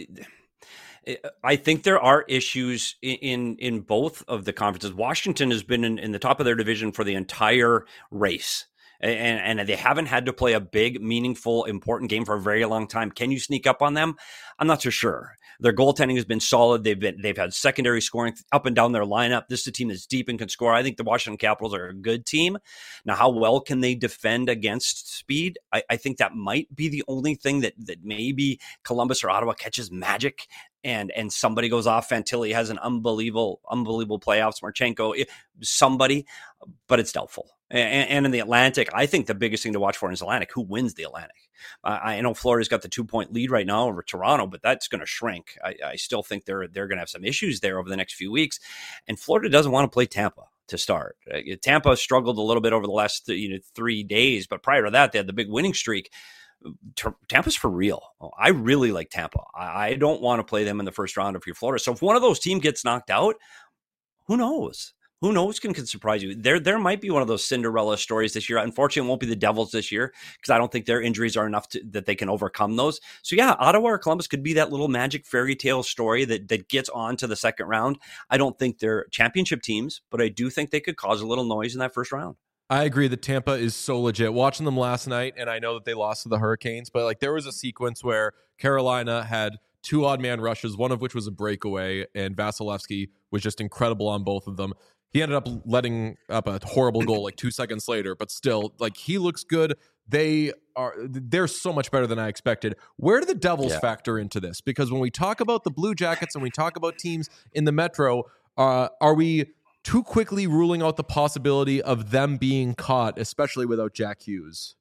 it, I think there are issues in, in in both of the conferences. Washington has been in, in the top of their division for the entire race. And, and they haven't had to play a big, meaningful, important game for a very long time. Can you sneak up on them? I'm not so sure. Their goaltending has been solid. They've been they've had secondary scoring up and down their lineup. This is a team that's deep and can score. I think the Washington Capitals are a good team. Now, how well can they defend against speed? I, I think that might be the only thing that that maybe Columbus or Ottawa catches magic. And and somebody goes off. Fantilli has an unbelievable, unbelievable playoffs. Marchenko, somebody, but it's doubtful. And, and in the Atlantic, I think the biggest thing to watch for is Atlantic. Who wins the Atlantic? Uh, I know Florida's got the two-point lead right now over Toronto, but that's going to shrink. I, I still think they're they're going to have some issues there over the next few weeks. And Florida doesn't want to play Tampa to start. Uh, Tampa struggled a little bit over the last th- you know, three days, but prior to that, they had the big winning streak. Tampa's for real. I really like Tampa. I don't want to play them in the first round if you're Florida. So if one of those teams gets knocked out, who knows? Who knows can, can surprise you? There there might be one of those Cinderella stories this year. Unfortunately, it won't be the Devils this year because I don't think their injuries are enough to, that they can overcome those. So yeah, Ottawa or Columbus could be that little magic fairy tale story that, that gets on to the second round. I don't think they're championship teams, but I do think they could cause a little noise in that first round. I agree that Tampa is so legit. Watching them last night, and I know that they lost to the Hurricanes, but like there was a sequence where Carolina had two odd man rushes, one of which was a breakaway, and Vasilevsky was just incredible on both of them. He ended up letting up a horrible goal like two seconds later, but still, like he looks good. They are they're so much better than I expected. Where do the Devils yeah. factor into this? Because when we talk about the Blue Jackets and we talk about teams in the Metro, uh, are we too quickly ruling out the possibility of them being caught, especially without Jack Hughes?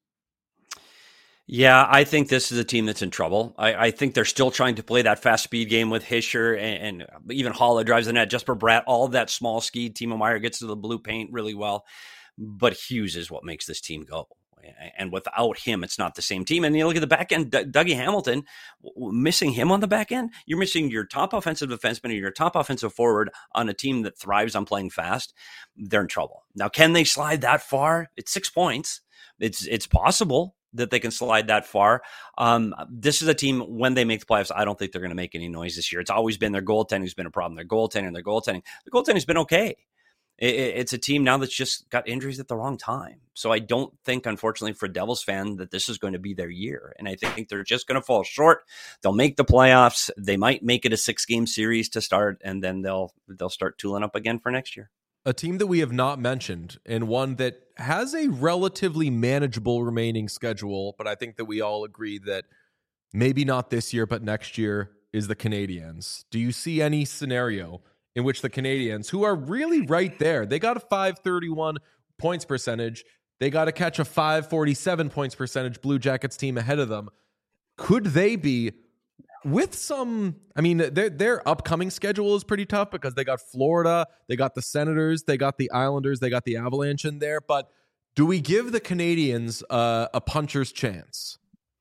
Yeah, I think this is a team that's in trouble. I, I think they're still trying to play that fast speed game with Hischier and, and even Holla drives the net. Jesper Bratt, all of that small ski. Timo Meier gets to the blue paint really well. But Hughes is what makes this team go. And without him, it's not the same team. And you look at the back end, D- Dougie Hamilton, missing him on the back end, you're missing your top offensive defenseman and your top offensive forward on a team that thrives on playing fast. They're in trouble. Now, can they slide that far? It's six points. it's it's possible that they can slide that far. Um, this is a team, when they make the playoffs, I don't think they're going to make any noise this year. It's always been their goaltending's been a problem. Their goaltending, their goaltending. The goaltending's been okay. It, it's a team now that's just got injuries at the wrong time. So I don't think, unfortunately, for a Devils fan, that this is going to be their year. And I think they're just going to fall short. They'll make the playoffs. They might make it a six-game series to start, and then they'll they'll start tooling up again for next year. A team that we have not mentioned, and one that has a relatively manageable remaining schedule, but I think that we all agree that maybe not this year, but next year, is the Canadiens. Do you see any scenario in which the Canadiens, who are really right there, they got a five thirty-one points percentage, they got to catch a five forty-seven points percentage Blue Jackets team ahead of them, could they be, with some, I mean, their their upcoming schedule is pretty tough because they got Florida, they got the Senators, they got the Islanders, they got the Avalanche in there. But do we give the Canadiens uh, a puncher's chance?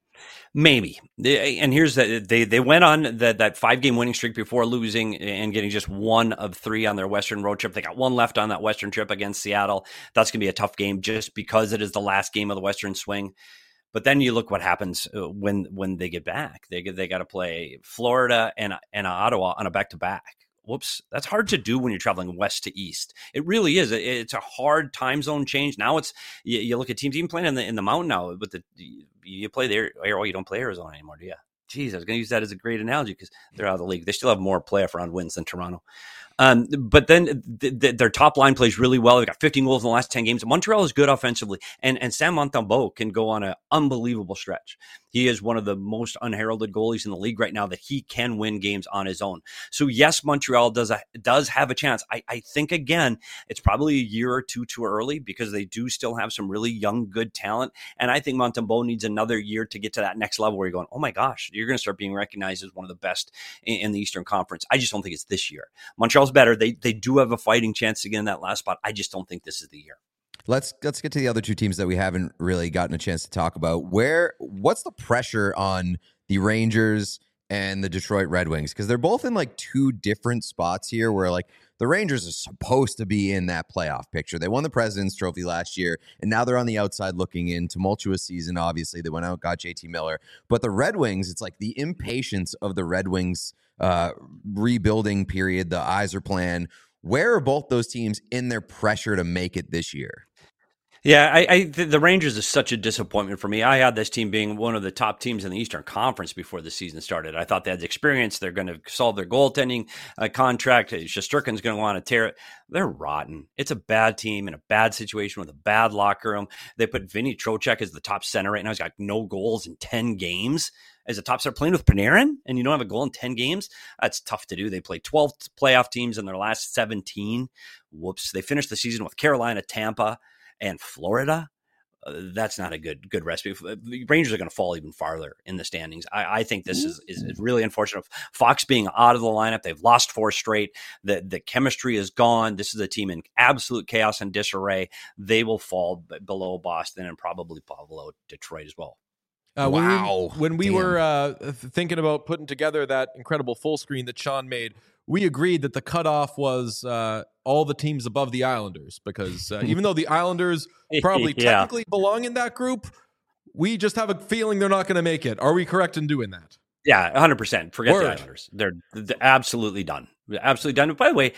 Maybe. And here's that they they went on that that five game winning streak before losing and getting just one of three on their Western road trip. They got one left on that Western trip against Seattle. That's going to be a tough game just because it is the last game of the Western swing. But then you look what happens when when they get back. They they got to play Florida and and Ottawa on a back to back. Whoops, that's hard to do when you're traveling west to east. It really is. It's a hard time zone change. Now it's you, you look at teams even playing in the in the mountain now. But the you play there. Oh, you don't play Arizona anymore, do you? Jeez, I was going to use that as a great analogy because they're out of the league. They still have more playoff round wins than Toronto. Um, but then th- th- their top line plays really well. They got fifteen goals in the last ten games. Montreal is good offensively, and and Sam Montembeault can go on an unbelievable stretch. He is one of the most unheralded goalies in the league right now that he can win games on his own. So yes, Montreal does a, does have a chance. I, I think again, it's probably a year or two too early because they do still have some really young, good talent, and I think Montembeault needs another year to get to that next level where you're going, oh my gosh, you're going to start being recognized as one of the best in, in the Eastern Conference. I just don't think it's this year. Montreal's better. They they do have a fighting chance to get in that last spot. I just don't think this is the year. Let's let's get to the other two teams that we haven't really gotten a chance to talk about. Where what's the pressure on the Rangers and the Detroit Red Wings? Because they're both in like two different spots here where like the Rangers are supposed to be in that playoff picture. They won the President's Trophy last year, and now they're on the outside looking in. Tumultuous season, obviously. They went out, got J T Miller. But the Red Wings, it's like the impatience of the Red Wings uh, rebuilding period, the Yzer plan. Where are both those teams in their pressure to make it this year? Yeah, I, I the Rangers is such a disappointment for me. I had this team being one of the top teams in the Eastern Conference before the season started. I thought they had the experience. They're going to solve their goaltending uh, contract. Shesterkin's going to want to tear it. They're rotten. It's a bad team in a bad situation with a bad locker room. They put Vinny Trocheck as the top center right now. He's got no goals in ten games. As a top center playing with Panarin, and you don't have a goal in ten games, that's tough to do. They played twelve playoff teams in their last seventeen. Whoops. They finished the season with Carolina, Tampa, and Florida. Uh, that's not a good good recipe. The Rangers are going to fall even farther in the standings. I, I think this is, is really unfortunate. Fox being out of the lineup, they've lost four straight. The, the chemistry is gone. This is a team in absolute chaos and disarray. They will fall b- below Boston and probably below Detroit as well. Uh, when wow. We, when we Damn. were uh, thinking about putting together that incredible full screen that Sean made, we agreed that the cutoff was uh, all the teams above the Islanders because uh, even though the Islanders probably Yeah. technically belong in that group, we just have a feeling they're not going to make it. Are we correct in doing that? Yeah, one hundred percent. Forget Word. the Islanders. They're, they're absolutely done. Absolutely done. By the way,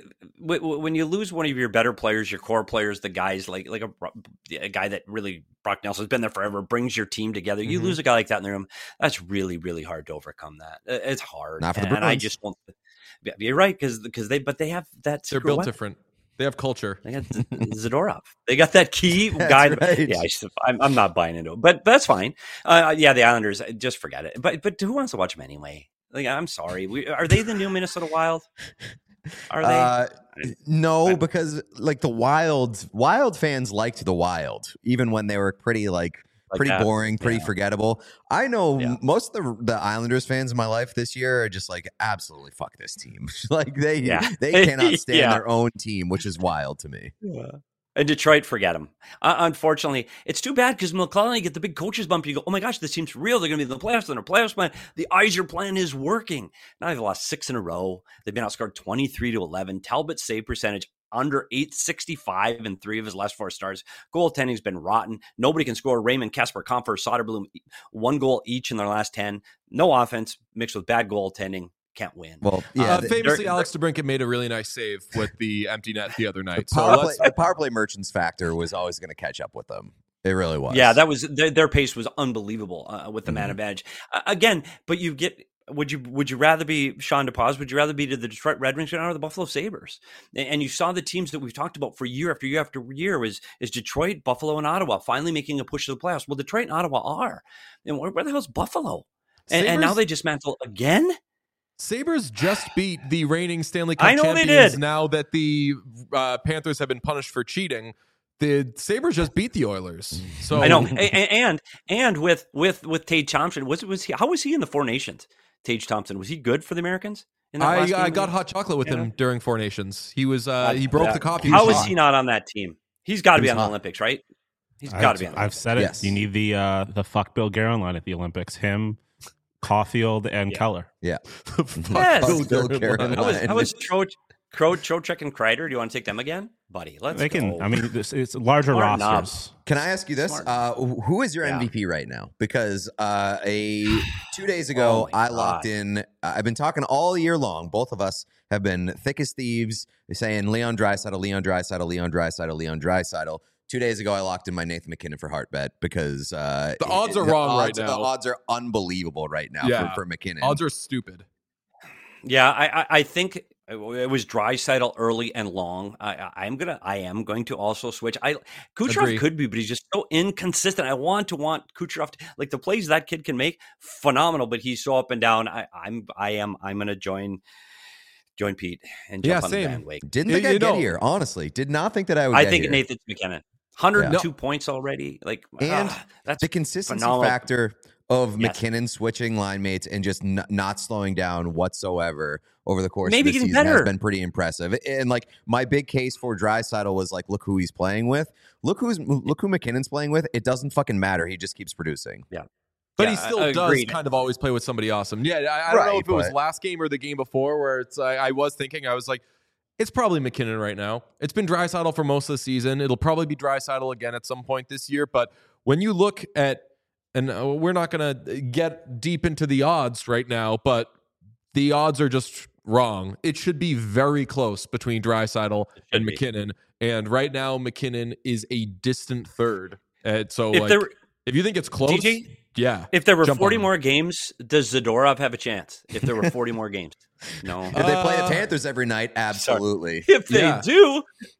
when you lose one of your better players, your core players, the guys like like a, a guy that really, Brock Nelson's been there forever, brings your team together. You Mm-hmm. lose a guy like that in the room. That's really, really hard to overcome that. It's hard. Not for the and, and I Bruins. just won't. You're right, because because they, but they have that. They're secret built weapon. different. They have culture. They got Zadorov. They got that key That's guy. right. Yeah, I just, I'm, I'm not buying into it, but that's fine. Uh, yeah, the Islanders, just forget it. But but who wants to watch them anyway? Like, I'm sorry. We, are they the new Minnesota Wild? Are they? Uh, no, I- because like the Wild, Wild fans liked the Wild, even when they were pretty like, Like pretty that? boring, pretty Yeah. forgettable. I know Yeah. m- most of the the Islanders fans in my life this year are just like absolutely fuck this team. Like they Yeah. they cannot stand Yeah. their own team, which is wild to me. And Detroit, forget them. Uh, unfortunately, it's too bad because McClellan, you get the big coaches bump. You go, oh my gosh, this team's real. They're going to be in the playoffs. They're in a playoffs plan. The Yzer plan is working. Now they've lost six in a row. They've been outscored twenty-three to eleven. Talbot's save percentage under eight sixty-five in three of his last four starts. Goaltending's been rotten. Nobody can score. Raymond, Kasper, Comfer, Soderblom, one goal each in their last ten. No offense mixed with bad goaltending. Can't win. Well, yeah. Uh, the, famously, Alex DeBrincat made a really nice save with the empty net the other night. the So power, let's play, the power play merchants factor was always going to catch up with them. It really was. Yeah, that was their, their pace was unbelievable uh, with the Mhm. man advantage. Uh, again, but you get would you would you rather be Sean DePaz? Would you rather be to the Detroit Red Wings or the Buffalo Sabres? And, and you saw the teams that we've talked about for year after year after year was is Detroit, Buffalo, and Ottawa finally making a push to the playoffs. Well, Detroit and Ottawa are, and where, where the hell's Buffalo? And, and now Sabres- they dismantle again. Sabres just beat the reigning Stanley Cup I know they champions. did. Now that the uh, Panthers have been punished for cheating, the Sabres just beat the Oilers. So I know, and and, and with with with Tage Thompson, was was he? How was he in the Four Nations? Tage Thompson, was he good for the Americans? In that I, last I game? got hot chocolate with Yeah. him during Four Nations. He was uh, he broke Yeah. the copy. How was is hot. he not on that team? He's got to He be was on the hot. Olympics, right? He's got I've, to be on the I've Olympics. said it. Yes. You need the uh, the fuck Bill Guerin line at the Olympics. Him, Caulfield, and Yeah. Keller. Yeah. Yes. Fuck Bill Guerin How was, line. how was Tro, Tro, Trocheck and Kreider? Do you want to take them again? Buddy, let's They can. go. I mean, this, it's larger Smart rosters. knobs. Can I ask you this? Smart. Uh, who is your Yeah. M V P right now? Because uh, a two days Oh ago, my I locked God. in. I've been talking all year long. Both of us have been thick as thieves, saying Leon Draisaitl, Leon Draisaitl, Leon Draisaitl, Leon Draisaitl. Two days ago, I locked in my Nathan McKinnon for Hart bet because uh, The odds it- are the wrong right odds- now. The odds are unbelievable right now Yeah. for, for McKinnon. Odds are stupid. Yeah, I, I, I think it was Draisaitl early and long. I, I- I'm gonna, I am going to also switch. I Kucherov Agree. could be, but he's just so inconsistent. I want to want Kucherov to, like the plays that kid can make, phenomenal. But he's so up and down. I, I'm, I am, I'm gonna join, join Pete and jump Yeah, on same. the bandwagon. Didn't You- think I'd you get know- here. Honestly, did not think that I would. I get think here. Nathan McKinnon, one hundred two points already. Like, And ah, that's the consistency phenomenal. factor of Yes. McKinnon switching line mates and just n- not slowing down whatsoever over the course Maybe of the getting season has better. been pretty impressive. And like my big case for Draisaitl was like, look who he's playing with. Look who's look who McKinnon's playing with. It doesn't fucking matter. He just keeps producing. But Yeah, he still I- does agreed. kind of always play with somebody awesome. Yeah, I, I don't know Right, if it was but- last game or the game before where it's. I, I was thinking, I was like, it's probably McKinnon right now. It's been Draisaitl for most of the season. It'll probably be Draisaitl again at some point this year. But when you look at, and uh, we're not going to get deep into the odds right now, but the odds are just wrong. It should be very close between Draisaitl and be. McKinnon. And right now, McKinnon is a distant third. And so, If like, there were- if you think it's close, G G? yeah. If there were Jump forty on it. more games, does Zadorov have a chance? If there were forty more games, no. If they play the Uh, Panthers every night, absolutely. If they Yeah. do,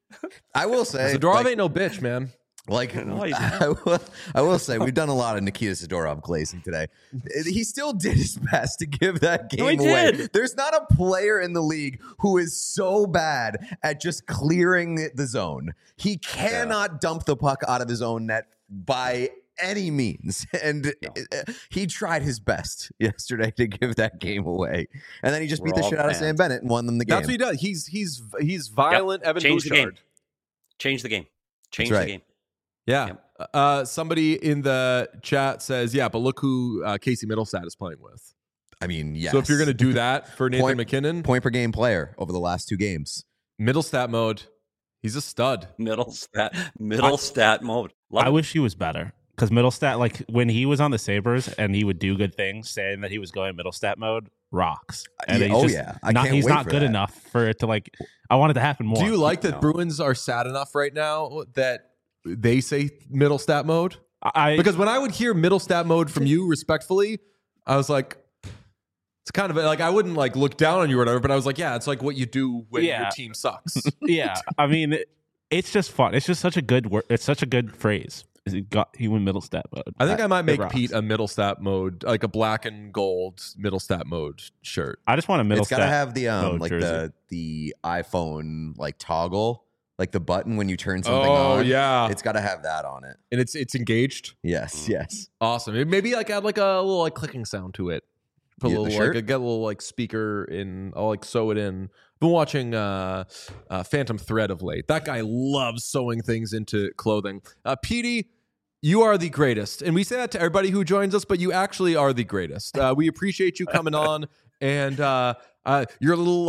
I will say, Zadorov like, ain't no bitch, man. Like No, he's I, will, I will say, we've done a lot of Nikita Zadorov glazing today. He still did his best to give that game No, he away. did. There's not a player in the league who is so bad at just clearing the zone. He cannot dump the puck out of his own net by any means. And uh, he tried his best yesterday to give that game away. And then he just We're beat the all shit out of fans. Sam Bennett and won them the game. That's what he does. He's he's he's violent Evan Change the game. Bouchard. change the game. Change right. the game. Yeah. Yep. Uh, somebody in the chat says, yeah, but look who uh, Casey Middlestat is playing with. I mean, yes. So if you're going to do that for Nathan Point- McKinnon, point per game player over the last two games. Middlestat mode, he's a stud. Middle stat, middle stat mode. Love I it. wish he was better because Middlestat, like when he was on the Sabres and he would do good things, saying that he was going Middlestat mode, rocks. And Yeah, he's oh, just yeah. I not, can't he's wait not for good that. enough for it to like. I want it to happen more. Do you like that No. Bruins are sad enough right now that they say Middlestat mode? I Because when I would hear Middlestat mode from you, respectfully, I was like, it's kind of like I wouldn't like look down on you or whatever, but I was like, yeah, it's like what you do when Yeah. your team sucks. yeah. I mean, it, it's just fun. It's just such a good word. It's such a good phrase. He got he went Middlestat mode. I think I might It make rocks. Pete a Middlestat mode, like a black and gold Middlestat mode shirt. I just want a Middlestat. It's got to have the um mode like jersey. the the iPhone like toggle, like the button when you turn something Oh on. yeah, It's got to have that on it. and it's it's engaged. Yes, yes. Awesome. It maybe like add like a little like clicking sound to it. Put a Yeah, the little shirt? like get a little like speaker in. I'll like sew it in. Been watching uh, uh Phantom Thread of late. That guy loves sewing things into clothing. Uh, Petey, you are the greatest, and we say that to everybody who joins us, but you actually are the greatest. Uh, we appreciate you coming on, and uh, uh, your little like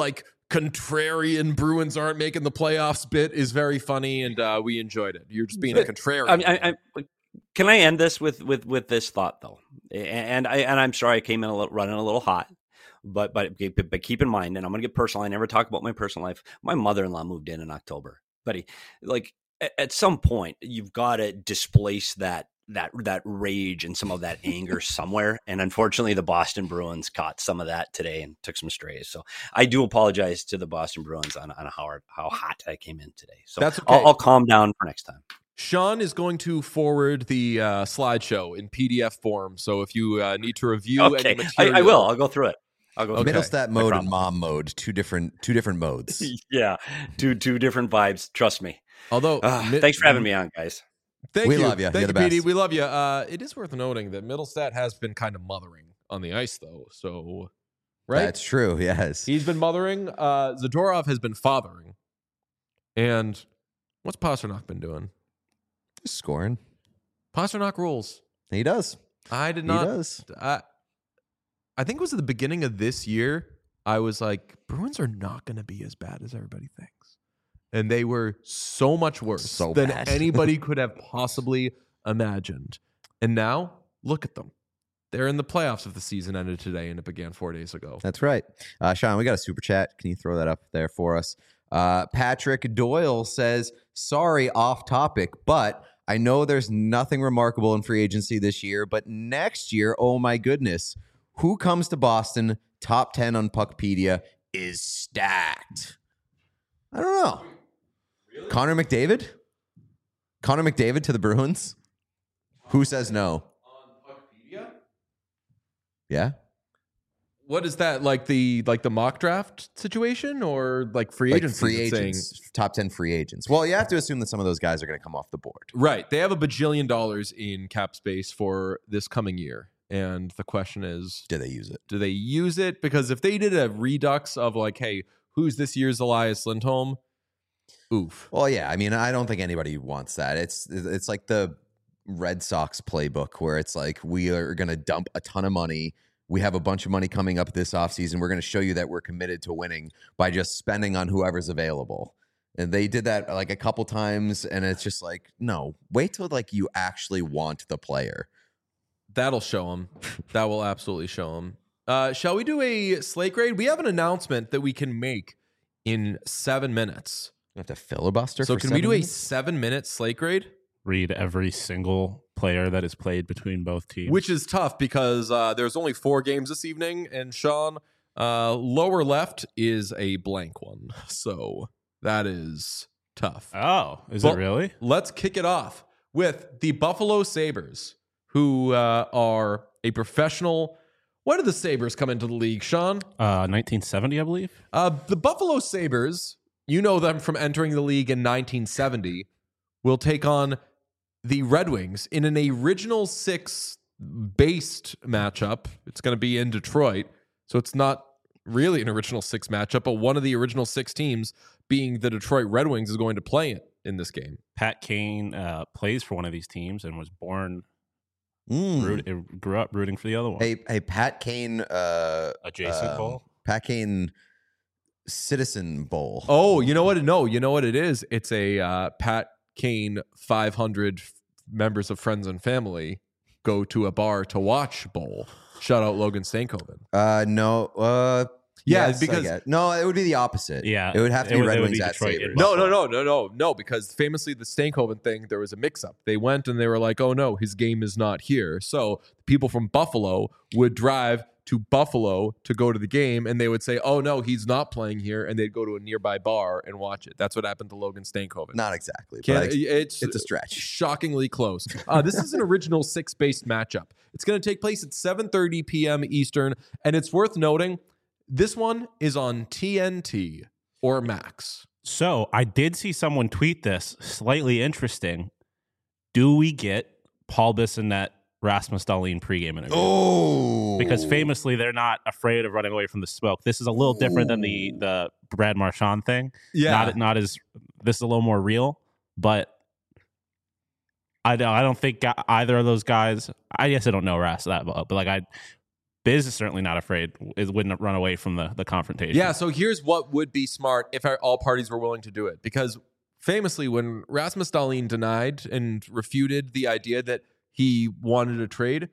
contrarian Bruins aren't making the playoffs bit is very funny, and uh, we enjoyed it. You're just being a contrarian. I mean, I, I, can I end this with with with this thought though? And I and I'm sorry I came in a little, running a little hot, but but but keep in mind, and I'm going to get personal. I never talk about my personal life. My mother-in-law moved in in October, buddy. Like at some point, you've got to displace that. that that rage and some of that anger somewhere. And unfortunately, the Boston Bruins caught some of that today and took some strays. So I do apologize to the Boston Bruins on, on how, how hot I came in today. So That's okay. I'll, I'll calm down for next time. Sean is going to forward the uh, slideshow in P D F form. So if you uh, need to review okay. any material, I, I will. I'll go through it. I'll go Okay. Middle stat mode No and mom mode, two different two different modes. yeah. Two, two different vibes. Trust me. Although, Uh, mi- thanks for having me on, guys. Thank We you. love you. Thank You're you, the P D. best. We love you. Uh, it is worth noting that Middlestat has been kind of mothering on the ice, though. So, right? That's true. Yes. He's been mothering. Uh, Zadorov has been fathering. And what's Pasternak been doing? Just scoring. Pasternak rules. He does. I did He not. does. I, I think it was at the beginning of this year. I was like, Bruins are not going to be as bad as everybody thinks. And they were so much worse So than bad. anybody could have possibly imagined. And now, look at them. They're in the playoffs if the season ended today and it began four days ago. That's right. Uh, Sean, we got a super chat. Can you throw that up there for us? Uh, Patrick Doyle says, sorry, off topic, but I know there's nothing remarkable in free agency this year, but next year, oh my goodness, who comes to Boston, top ten on Puckpedia, is stacked. I don't know. Really? Connor McDavid? Connor McDavid to the Bruins? Who says no? On Puckpedia? Yeah. What is that, like the like the mock draft situation or like free Like agency? free it's saying- agents, top ten free agents. Well, you have to assume that some of those guys are going to come off the board. Right. They have a bajillion dollars in cap space for this coming year. And the question is, Do they use it? do they use it? Because if they did a redux of like, hey, who's this year's Elias Lindholm? Oof. Well, yeah. I mean, I don't think anybody wants that. It's it's like the Red Sox playbook where it's like we are going to dump a ton of money. We have a bunch of money coming up this offseason. We're going to show you that we're committed to winning by just spending on whoever's available. And they did that like a couple times, and it's just like, no, wait till like you actually want the player. That'll show them. That will absolutely show them. Uh, shall we do a slate grade? We have an announcement that we can make in seven minutes. You have to filibuster. So for can we seven do a minutes? seven minute slate grade? Read every single player that is played between both teams. Which is tough because uh, there's only four games this evening, and Sean, uh, lower left is a blank one. So that is tough. Oh, is Well, it really? Let's kick it off with the Buffalo Sabres, who uh, are a professional. When did the Sabres come into the league, Sean? Uh, nineteen seventy, I believe. Uh, the Buffalo Sabres, you know them from entering the league in nineteen seventy, will take on the Red Wings in an original six based matchup. It's going to be in Detroit, so it's not really an original six matchup, but one of the original six teams, being the Detroit Red Wings, is going to play it in this game. Pat Kane uh, plays for one of these teams and was born, Mm. root, grew up rooting for the other one. Hey, hey, Pat Kane. Uh, Adjacent um, Bowl? Pat Kane Citizen Bowl. Oh, you know what? No, you know what it is? It's a uh, Pat Kane five hundred f- members of Friends and Family go to a bar to watch bowl. Shout out Logan Stankoven. Uh, no. Uh, Yeah, yes, I because- get- no, it would be the opposite. Yeah, it would have to it be would- Red it would Wings be at Detroit Sabres. and No, no, no, no, no, no, because famously the Stankoven thing, there was a mix-up. They went and they were like, oh no, his game is not here. So people from Buffalo would drive to Buffalo to go to the game, and they would say, oh no, he's not playing here, and they'd go to a nearby bar and watch it. That's what happened to Logan Stankoven. Not exactly, Can- but I, it's, it's a stretch. shockingly close. Uh, this is an original six-based matchup. It's going to take place at seven thirty p.m. Eastern, and it's worth noting, this one is on T N T or Max. So I did see someone tweet this, slightly interesting. Do we get Paul Bissonnette, Rasmus Dahlin pregame interview? Oh, Because famously, they're not afraid of running away from the smoke. This is a little different than the the Brad Marchand thing. Yeah. Not not as this is a little more real, but I don't I don't think either of those guys. I guess I don't know Ras that well, but like I Biz is certainly not afraid. It wouldn't run away from the, the confrontation. Yeah, so here's what would be smart if all parties were willing to do it. Because famously, when Rasmus Dahlin denied and refuted the idea that he wanted a trade,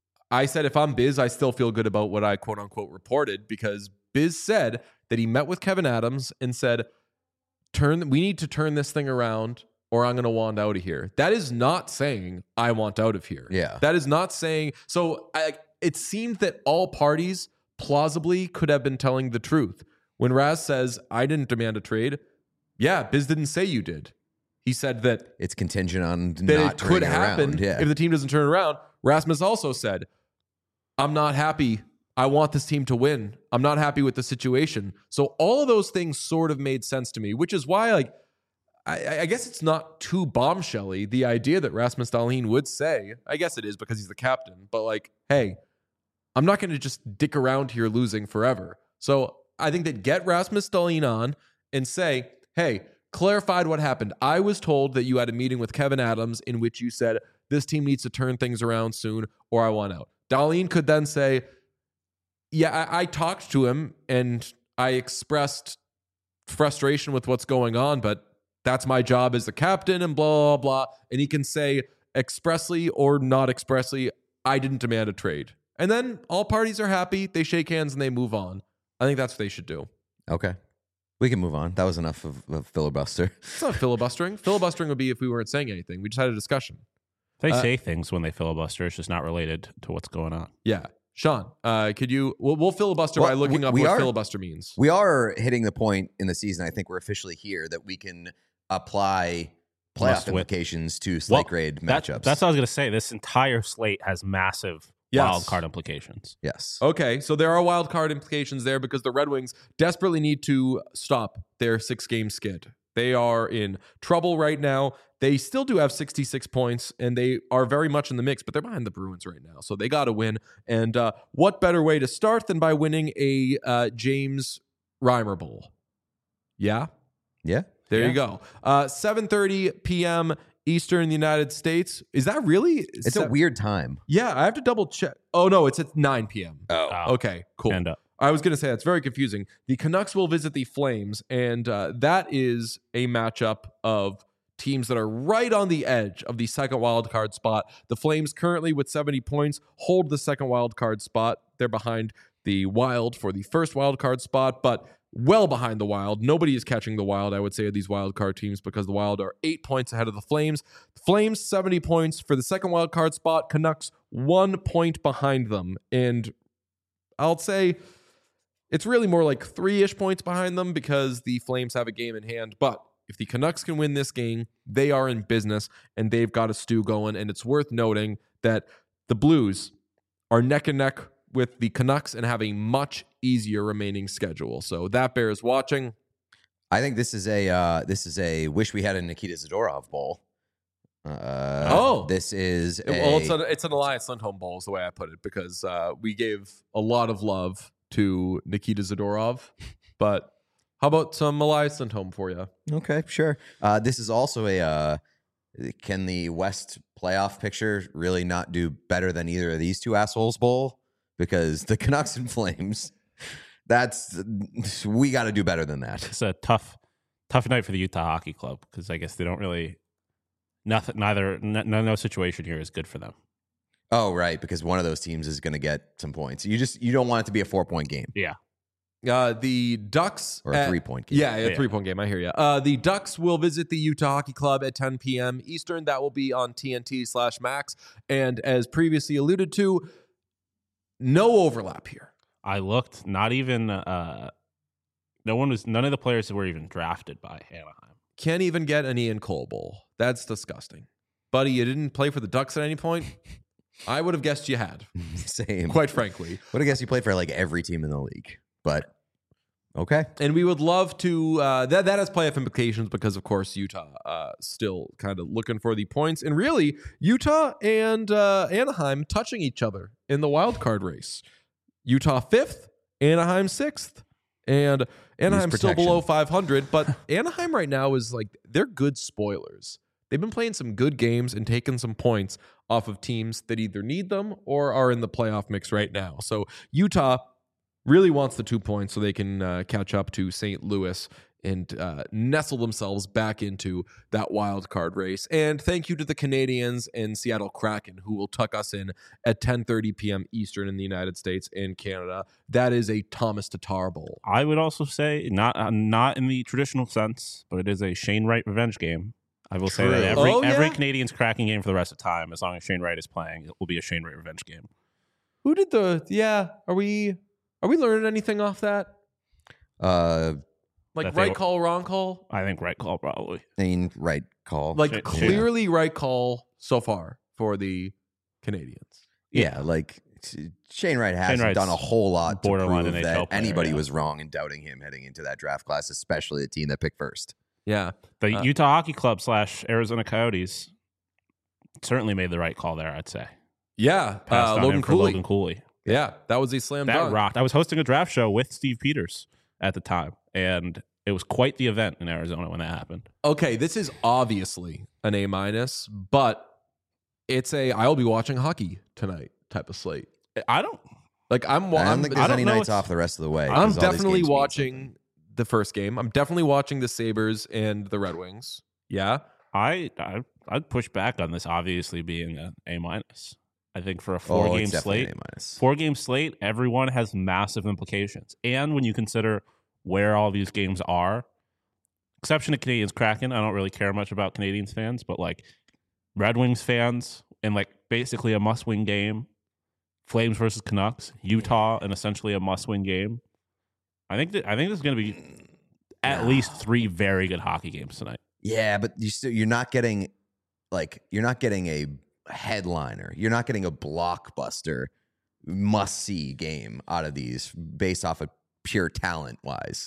I said, if I'm Biz, I still feel good about what I quote unquote reported, because Biz said that he met with Kevin Adams and said, "Turn, we need to turn this thing around or I'm going to want out of here." That is not saying I want out of here. Yeah. That is not saying, so I, it seemed that all parties plausibly could have been telling the truth. When Raz says, I didn't demand a trade, yeah, Biz didn't say you did. He said that It's contingent on that not it could turning happen around. Yeah. if the team doesn't turn around. Rasmus also said, I'm not happy. I want this team to win. I'm not happy with the situation. So all of those things sort of made sense to me, which is why, like, I, I guess it's not too bombshelly, the idea that Rasmus Dahlin would say, I guess it is because he's the captain, but like, hey, I'm not going to just dick around here losing forever. So I think that get Rasmus Dahlin on and say, hey, clarified what happened. I was told that you had a meeting with Kevin Adams in which you said this team needs to turn things around soon or I want out. Dahlin could then say, yeah, I, I talked to him and I expressed frustration with what's going on, but that's my job as the captain and blah, blah, blah. And he can say expressly or not expressly, I didn't demand a trade. And then all parties are happy. They shake hands and they move on. I think that's what they should do. Okay. We can move on. That was enough of, of filibuster. It's not filibustering. Filibustering would be if we weren't saying anything. We just had a discussion. They Uh, say things when they filibuster. It's just not related to what's going on. Yeah. Sean, uh, could you, we'll, we'll filibuster Well, by looking we- up we what are- filibuster means. We are hitting the point in the season. I think we're officially here that we can apply playoff Must win. implications to slate Well, grade That- matchups. that's what I was going to say. This entire slate has massive Yes. wild card implications. yes. Okay, so there are wild card implications there because the Red Wings desperately need to stop their six-game skid. They are in trouble right now. They still do have sixty-six points, and they are very much in the mix, but they're behind the Bruins right now, so they got to win. And uh, what better way to start than by winning a uh, James Reimer Bowl? Yeah? Yeah. There Yeah. you go. Uh, seven thirty p.m. Eastern United States. Is that really? It's a weird time. Yeah, I have to double check. Oh, no, it's at nine p.m. Oh. Uh, Okay, cool. And uh, I was going to say that's very confusing. The Canucks will visit the Flames, and uh, that is a matchup of teams that are right on the edge of the second wild card spot. The Flames currently with seventy points hold the second wild card spot. They're behind the Wild for the first wild card spot, but well behind the Wild. Nobody is catching the Wild, I would say, of these wild card teams because the Wild are eight points ahead of the Flames. Flames, seventy points for the second wild card spot. Canucks, one point behind them. And I'll say it's really more like three-ish points behind them because the Flames have a game in hand. But if the Canucks can win this game, they are in business and they've got a stew going. And it's worth noting that the Blues are neck and neck with the Canucks and have a much easier remaining schedule. So that bears watching. I think this is a uh, this is a wish we had a Nikita Zadorov bowl. Uh, Oh. this is a, Well, it's, a, it's an Alliance Lindholm Bowl is the way I put it because uh, we gave a lot of love to Nikita Zadorov. But how about some Elias Lindholm for you? okay, sure. Uh, this is also a uh, can the West playoff picture really not do better than either of these two assholes bowl? Because the Canucks and Flames, that's we got to do better than that. it's a tough, tough night for the Utah Hockey Club because I guess they don't really, nothing, neither, no, no situation here is good for them. Oh, right, because one of those teams is going to get some points. You just you don't want it to be a four point game Yeah. Uh, the Ducks or a at- three point game. Yeah, a Yeah. three-point game. I hear you. Uh, the Ducks will visit the Utah Hockey Club at ten p.m. Eastern. That will be on T N T slash Max. And as previously alluded to, no overlap here. I looked, not even, uh, no one was, none of the players were even drafted by Anaheim. Can't even get an Ian Cole Bowl. That's disgusting. Buddy, you didn't play for the Ducks at any point? I would have guessed you had, Same. quite frankly. Would have guessed you played for like every team in the league, but okay. And we would love to, uh, that, that has playoff implications because, of course, Utah uh, still kind of looking for the points. And really, Utah and uh, Anaheim touching each other in the wild card race. Utah fifth, Anaheim sixth. And Anaheim's still protection. below five hundred, but Anaheim right now is like, they're good spoilers. they've been playing some good games and taking some points off of teams that either need them or are in the playoff mix right now. So Utah really wants the two points so they can uh, catch up to Saint Louis and uh, nestle themselves back into that wild card race. And thank you to the Canadians and Seattle Kraken, who will tuck us in at ten thirty p.m. Eastern in the United States and Canada. That is a Thomas Tatar Bowl. I would also say, not uh, not in the traditional sense, but it is a Shane Wright revenge game. I will True. say that every, Oh, yeah? every Canadians Kraken game for the rest of time, as long as Shane Wright is playing, it will be a Shane Wright revenge game. Who did the, yeah, are we, are we learning anything off that? Uh, Like That they right were- call, wrong call? I think right call probably. I mean, right call. Like Shane- clearly right call so far for the Canadians. yeah, like Shane Wright hasn't Wright's done a whole lot to borderline prove N H that L player, anybody yeah. was wrong in doubting him heading into that draft class, especially the team that picked first. Yeah. The Uh, Utah Hockey Club slash Arizona Coyotes certainly made the right call there, I'd say. Yeah. Passed Uh, on Logan him for Cooley. Logan Cooley. Yeah. That was a slam That dunk. rocked. I was hosting a draft show with Steve Peters at the time, and it was quite the event in Arizona when that happened. Okay. This is obviously an A minus, but it's a, I'll be watching hockey tonight type of slate. I don't. Like I'm, I don't I'm, think I there's don't any know nights if- off the rest of the way. I'm 'cause all these definitely games mean watching something. the first game. I'm definitely watching the Sabres and the Red Wings. Yeah. I, I I'd push back on this obviously being an A minus. I think for a four Oh, game it's definitely slate, an A minus. four game slate, everyone has massive implications. And when you consider where all these games are, exception to Canadians Kraken, I don't really care much about Canadians fans, but like Red Wings fans and like basically a must win game, Flames versus Canucks, Utah, and essentially a must win game. I think that I think there's going to be at No. least three very good hockey games tonight. Yeah, but you still you're not getting like you're not getting a headliner. You're not getting a blockbuster must see game out of these based off of pure talent wise.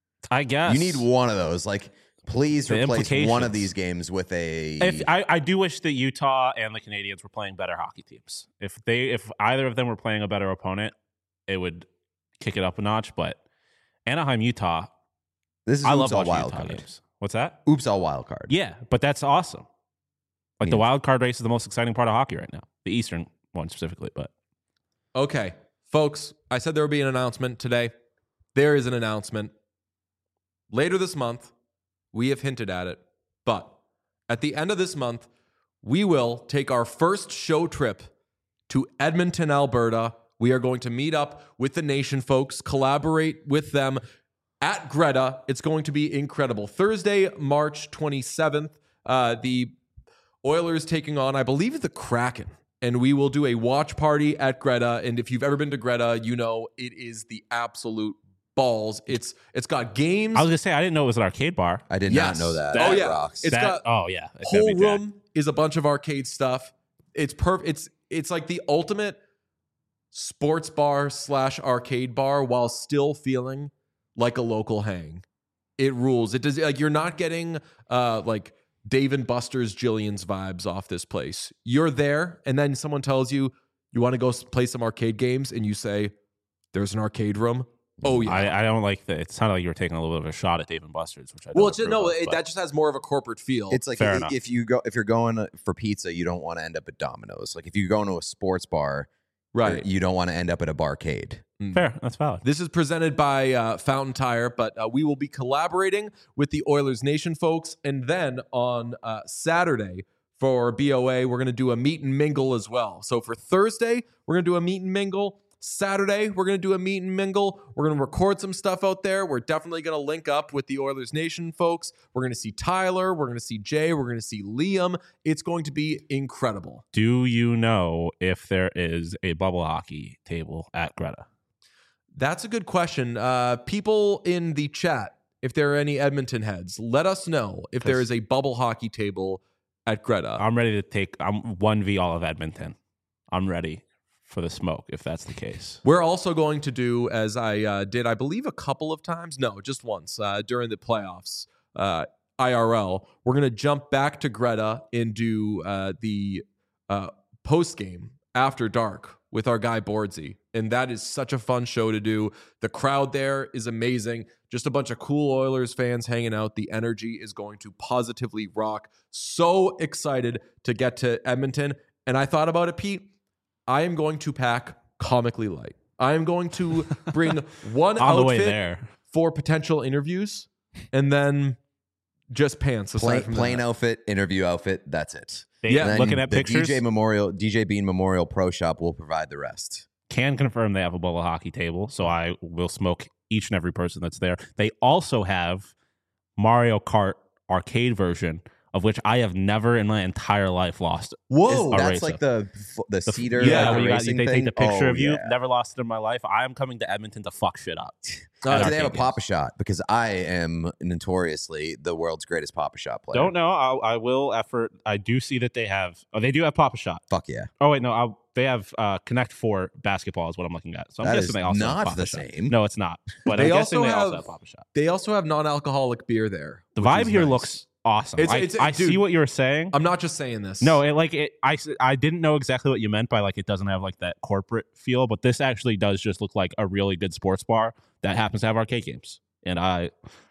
I guess You need one of those. Like, please The replace one of implications. these games with a. If I, I do wish that Utah and the Canadians were playing better hockey teams. If they, if either of them were playing a better opponent, it would kick it up a notch. But Anaheim, Utah, this is I oops love all watching wild Utah card. games. What's that? Oops all wild card. Yeah, but that's awesome. Like the Yeah. wild card race is the most exciting part of hockey right now. The Eastern one specifically, but Okay. Folks, I said there would be an announcement today. There is an announcement. Later this month, we have hinted at it, but at the end of this month, we will take our first show trip to Edmonton, Alberta. We are going to meet up with the Nation folks, collaborate with them at Greta. It's going to be incredible. Thursday, March twenty-seventh, uh, the Oilers taking on, I believe, the Kraken. And we will do a watch party at Greta. And if you've ever been to Greta, you know it is the absolute balls. It's it's got games. I was gonna say I didn't know it was an arcade bar. I did Yes. not know that. Oh, That yeah. rocks. It's got- That- oh yeah, it's gonna whole be jacked. room is a bunch of arcade stuff. It's perfect. It's it's like the ultimate sports bar slash arcade bar while still feeling like a local hang. It rules. It does like you're not getting uh like Dave and Buster's Jillian's vibes off this place. You're there, and then someone tells you you want to go s- play some arcade games, and you say, "There's an arcade room." Oh yeah. I, I don't like that. It sounded like you were taking a little bit of a shot at Dave and Buster's, which I well, don't it's approve no, of, it, but- that just has more of a corporate feel. It's like Fair i- enough. if you go if you're going for pizza, you don't want to end up at Domino's. Like if you go into a sports bar, right. you don't want to end up at a barcade. fair. That's valid. This is presented by uh, Fountain Tire, but uh, we will be collaborating with the Oilers Nation folks. And then on uh, Saturday for B O A, we're going to do a meet and mingle as well. So for Thursday, we're going to do a meet and mingle. Saturday, we're going to do a meet and mingle. We're going to record some stuff out there. We're definitely going to link up with the Oilers Nation folks. We're going to see Tyler. We're going to see Jay. We're going to see Liam. It's going to be incredible. Do you know if there is a bubble hockey table at Greta? That's a good question. Uh, people in the chat, if there are any Edmonton heads, let us know if there is a bubble hockey table at Greta. I'm ready to take. I'm one v all of Edmonton. I'm ready for the smoke if that's the case. We're also going to do, as I uh, did, I believe, a couple of times. No, just once uh, during the playoffs, uh, I R L. We're going to jump back to Greta and do uh, the uh, post game after dark with our guy Bordsey. And that is such a fun show to do. The crowd there is amazing. Just a bunch of cool Oilers fans hanging out. The energy is going to positively rock. So excited to get to Edmonton. And I thought about it, Pete. I am going to pack comically light. I am going to bring one On the way outfit there. for potential interviews and then just pants. Aside Plain, from plain that. outfit, interview outfit. That's it. They, Yeah. And then looking at the pictures, D J Memorial, D J Bean Memorial Pro Shop will provide the rest. can confirm they have a bubble hockey table, so I will smoke each and every person that's there. They also have Mario Kart arcade version, of which I have never in my entire life lost. Whoa, a that's racer. like the the, The- cedar. yeah, uh, where you got, racing they thing? take the picture Oh, of you. yeah. Never lost it in my life. I am coming to Edmonton to fuck shit up. Uh, At Do they have a arcade Papa games. Shot? Because I am notoriously the world's greatest Papa Shot player. Don't know. I, I will effort. I do see that they have. Oh, they do have Papa Shot. Fuck yeah. Oh wait, no. I'll, they have uh, Connect Four basketball is what I'm looking at. So I'm That guessing is they also have not Papa the Shot. same. No, it's not. But They I'm guessing also they also have- have Papa Shot. They also have non-alcoholic beer there. The which vibe is here nice. looks awesome. It's- I, it's- I dude, see what you're saying. I'm not just saying this. No, it like it. I s- I didn't know exactly what you meant by like it doesn't have like that corporate feel, but this actually does just look like a really good sports bar that happens to have arcade games. And I,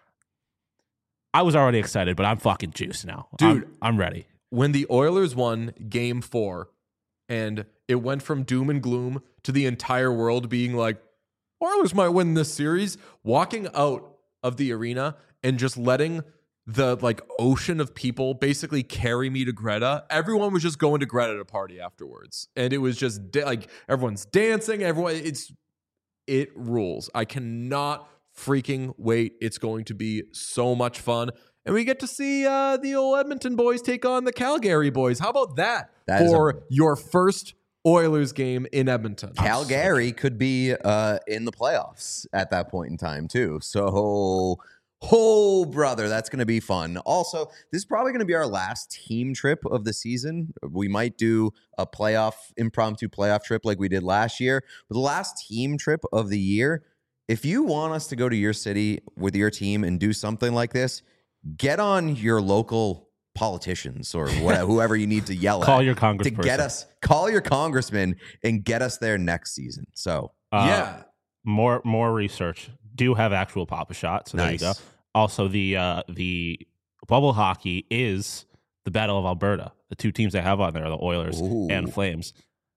I was already excited, but I'm fucking juiced now, Dude. I'm, I'm ready. when the Oilers won game four and it went from doom and gloom to the entire world being like, Oilers might win this series, walking out of the arena and just letting the like ocean of people basically carry me to Greta. Everyone was just going to Greta to party afterwards. And it was just da- like everyone's dancing. Everyone, it's, it rules. I cannot freaking wait. It's going to be so much fun. And we get to see uh, the old Edmonton boys take on the Calgary boys. How about that, That is for a- your first Oilers game in Edmonton? Calgary could be uh, in the playoffs at that point in time, too. So, oh, brother, that's going to be fun. Also, this is probably going to be our last team trip of the season. We might do a playoff, impromptu playoff trip like we did last year. But the last team trip of the year, if you want us to go to your city with your team and do something like this, get on your local politicians or whatever, whoever you need to yell Call at your to congressperson. get us, call your congressman and get us there next season. So, Uh, yeah. more more research. Do have actual Papa Shot. So Nice. there you go. Also, the uh, the bubble hockey is the Battle of Alberta. The two teams they have on there are the Oilers Ooh. and Flames.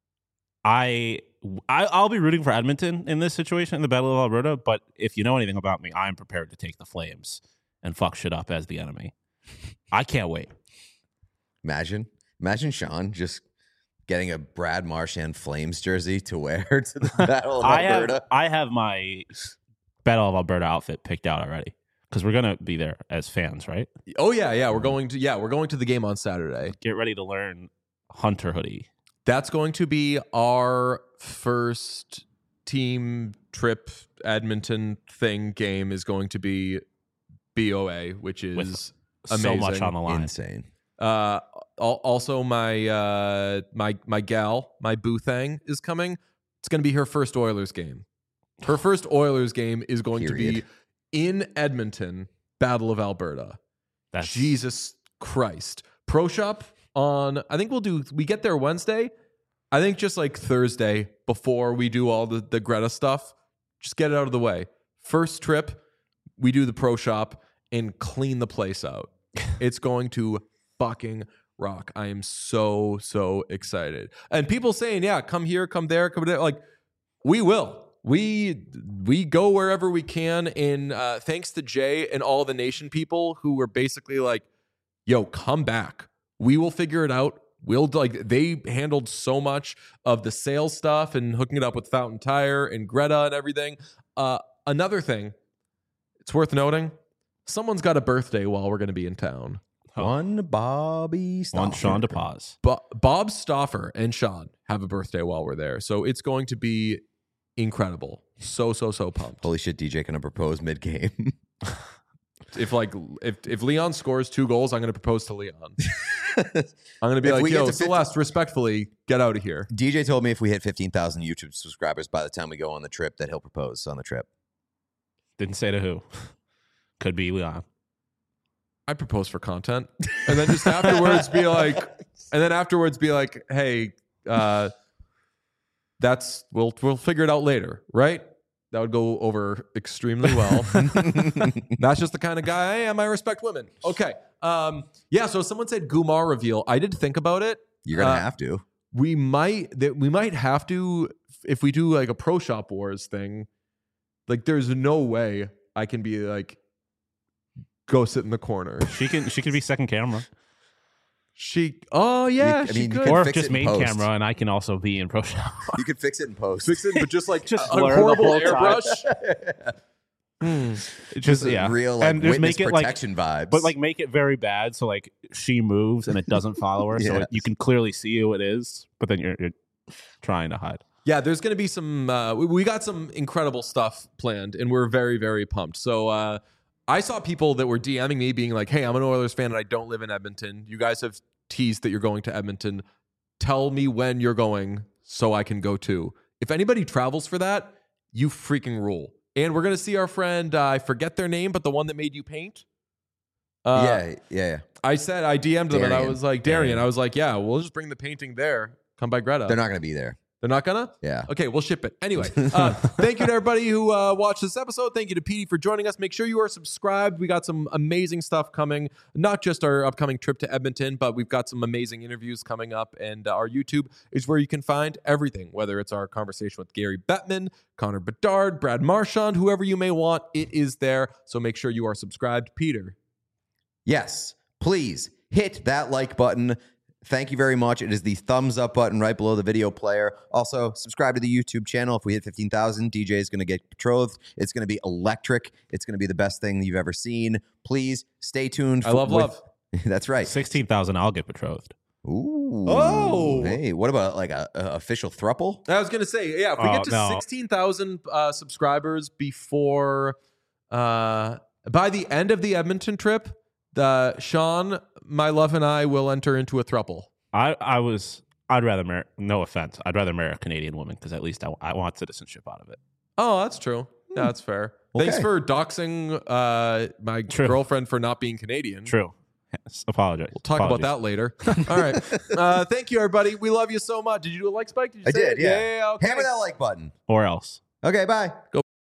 I, I I'll be rooting for Edmonton in this situation in the Battle of Alberta. But if you know anything about me, I'm prepared to take the Flames and fuck shit up as the enemy. I can't wait. Imagine, imagine Sean just getting a Brad Marchand Flames jersey to wear to the Battle of I have Alberta. I have my Battle of Alberta outfit picked out already because we're gonna be there as fans, right? Oh yeah, yeah. We're going to yeah, we're going to the game on Saturday. Get ready to learn Hunter hoodie. That's going to be our first team trip Edmonton thing game is going to be B O A, which is With So amazing. much on the line. Insane. Uh, al- also my uh my my gal, my boo thang is coming. It's going to be her first Oilers game. Her first Oilers game is going to Period. be in Edmonton, Battle of Alberta. That's Jesus Christ. Pro Shop on, I think we'll do, we get there Wednesday. I think just like Thursday before we do all the, the Greta stuff, just get it out of the way. First trip, we do the Pro Shop and clean the place out. It's going to fucking rock. I am so, so excited. And people saying, yeah, come here, come there, come there. Like, we will. We we go wherever we can. And uh, thanks to Jay and all the nation people who were basically like, yo, come back. We will figure it out. We'll like they handled so much of the sales stuff and hooking it up with Fountain Tire and Greta and everything. Uh, another thing, it's worth noting, someone's got a birthday while we're going to be in town. One Bobby on Stauffer. Sean DePaz. Bo- Bob Stauffer and Sean have a birthday while we're there. So it's going to be incredible. So, so, so pumped. Holy shit, D J gonna propose mid game. If like if if Leon scores two goals, I'm going to propose to Leon. I'm going to be If like, we get yo, to fifty Celeste, respectfully, get out of here. D J told me if we hit fifteen thousand YouTube subscribers by the time we go on the trip, that he'll propose on the trip. Didn't say to who. Could be Leon. I propose for content, and then just afterwards be like, and then afterwards be like, hey, uh, that's we'll we'll figure it out later, right? That would go over extremely well. That's just the kind of guy I am. I respect women. Okay. Um, yeah. So someone said Gumar reveal. I did think about it. You're gonna Uh, have to. We might that we might have to if we do like a Pro Shop Wars thing. Like, there's no way I can be like go sit in the corner. She can she can be second camera, She. Oh yeah. You- I she mean, you could can or fix just it in main post. camera, and I can also be in Pro Shop. You could fix it in post. fix it, but just like Just a, blur a the horrible whole time. airbrush. Hmm. Just a yeah, real like and just witness make it like, protection vibes. but like make it very bad, so like she moves and it doesn't follow her, so Yes. it, you can clearly see who it is, but then you're, you're trying to hide. Yeah, there's going to be some. Uh, we, we got some incredible stuff planned, and we're very, very pumped. So uh, I saw people that were DMing me, being like, "Hey, I'm an Oilers fan, and I don't live in Edmonton. You guys have teased that you're going to Edmonton. Tell me when you're going, so I can go too. If anybody travels for that, you freaking rule." And we're going to see our friend. Uh, I forget their name, but the one that made you paint. Uh, yeah, yeah, yeah. I said I D M'd them, and I Darian. was like, Darian. Darian. I was like, yeah, we'll just bring the painting there. Come by Greta. They're not gonna be there. They're not gonna. Yeah. Okay, we'll ship it. Anyway, uh, thank you to everybody who uh, watched this episode. Thank you to Petey for joining us. Make sure you are subscribed. We got some amazing stuff coming. Not just our upcoming trip to Edmonton, but we've got some amazing interviews coming up. And uh, our YouTube is where you can find everything, whether it's our conversation with Gary Bettman, Connor Bedard, Brad Marchand, whoever you may want, it is there. So make sure you are subscribed. Peter. Yes, please hit that like button. Thank you very much. It is the thumbs up button right below the video player. Also, subscribe to the YouTube channel. If we hit fifteen thousand, D J is going to get betrothed. It's going to be electric. It's going to be the best thing you've ever seen. Please stay tuned. I love with- love. That's right. Sixteen thousand, I'll get betrothed. Ooh. Oh. Hey, what about like a, a official thruple? I was gonna say, yeah, if we Oh, get to no. sixteen thousand uh, subscribers before, uh, by the end of the Edmonton trip, the Sean, my love, and I will enter into a thruple. I I was I'd rather marry. No offense, I'd rather marry a Canadian woman because at least I, I want citizenship out of it. Oh, that's true. Yeah, that's fair. Thanks Okay. for doxing uh, my True. girlfriend for not being Canadian. True. Yes, apologize. We'll talk about that later. All right. Uh, thank you, everybody. We love you so much. Did you do a like spike? Did you I say did, it? yeah. Yeah, yeah, okay. Hammer that like button. Or else. Okay, bye. Go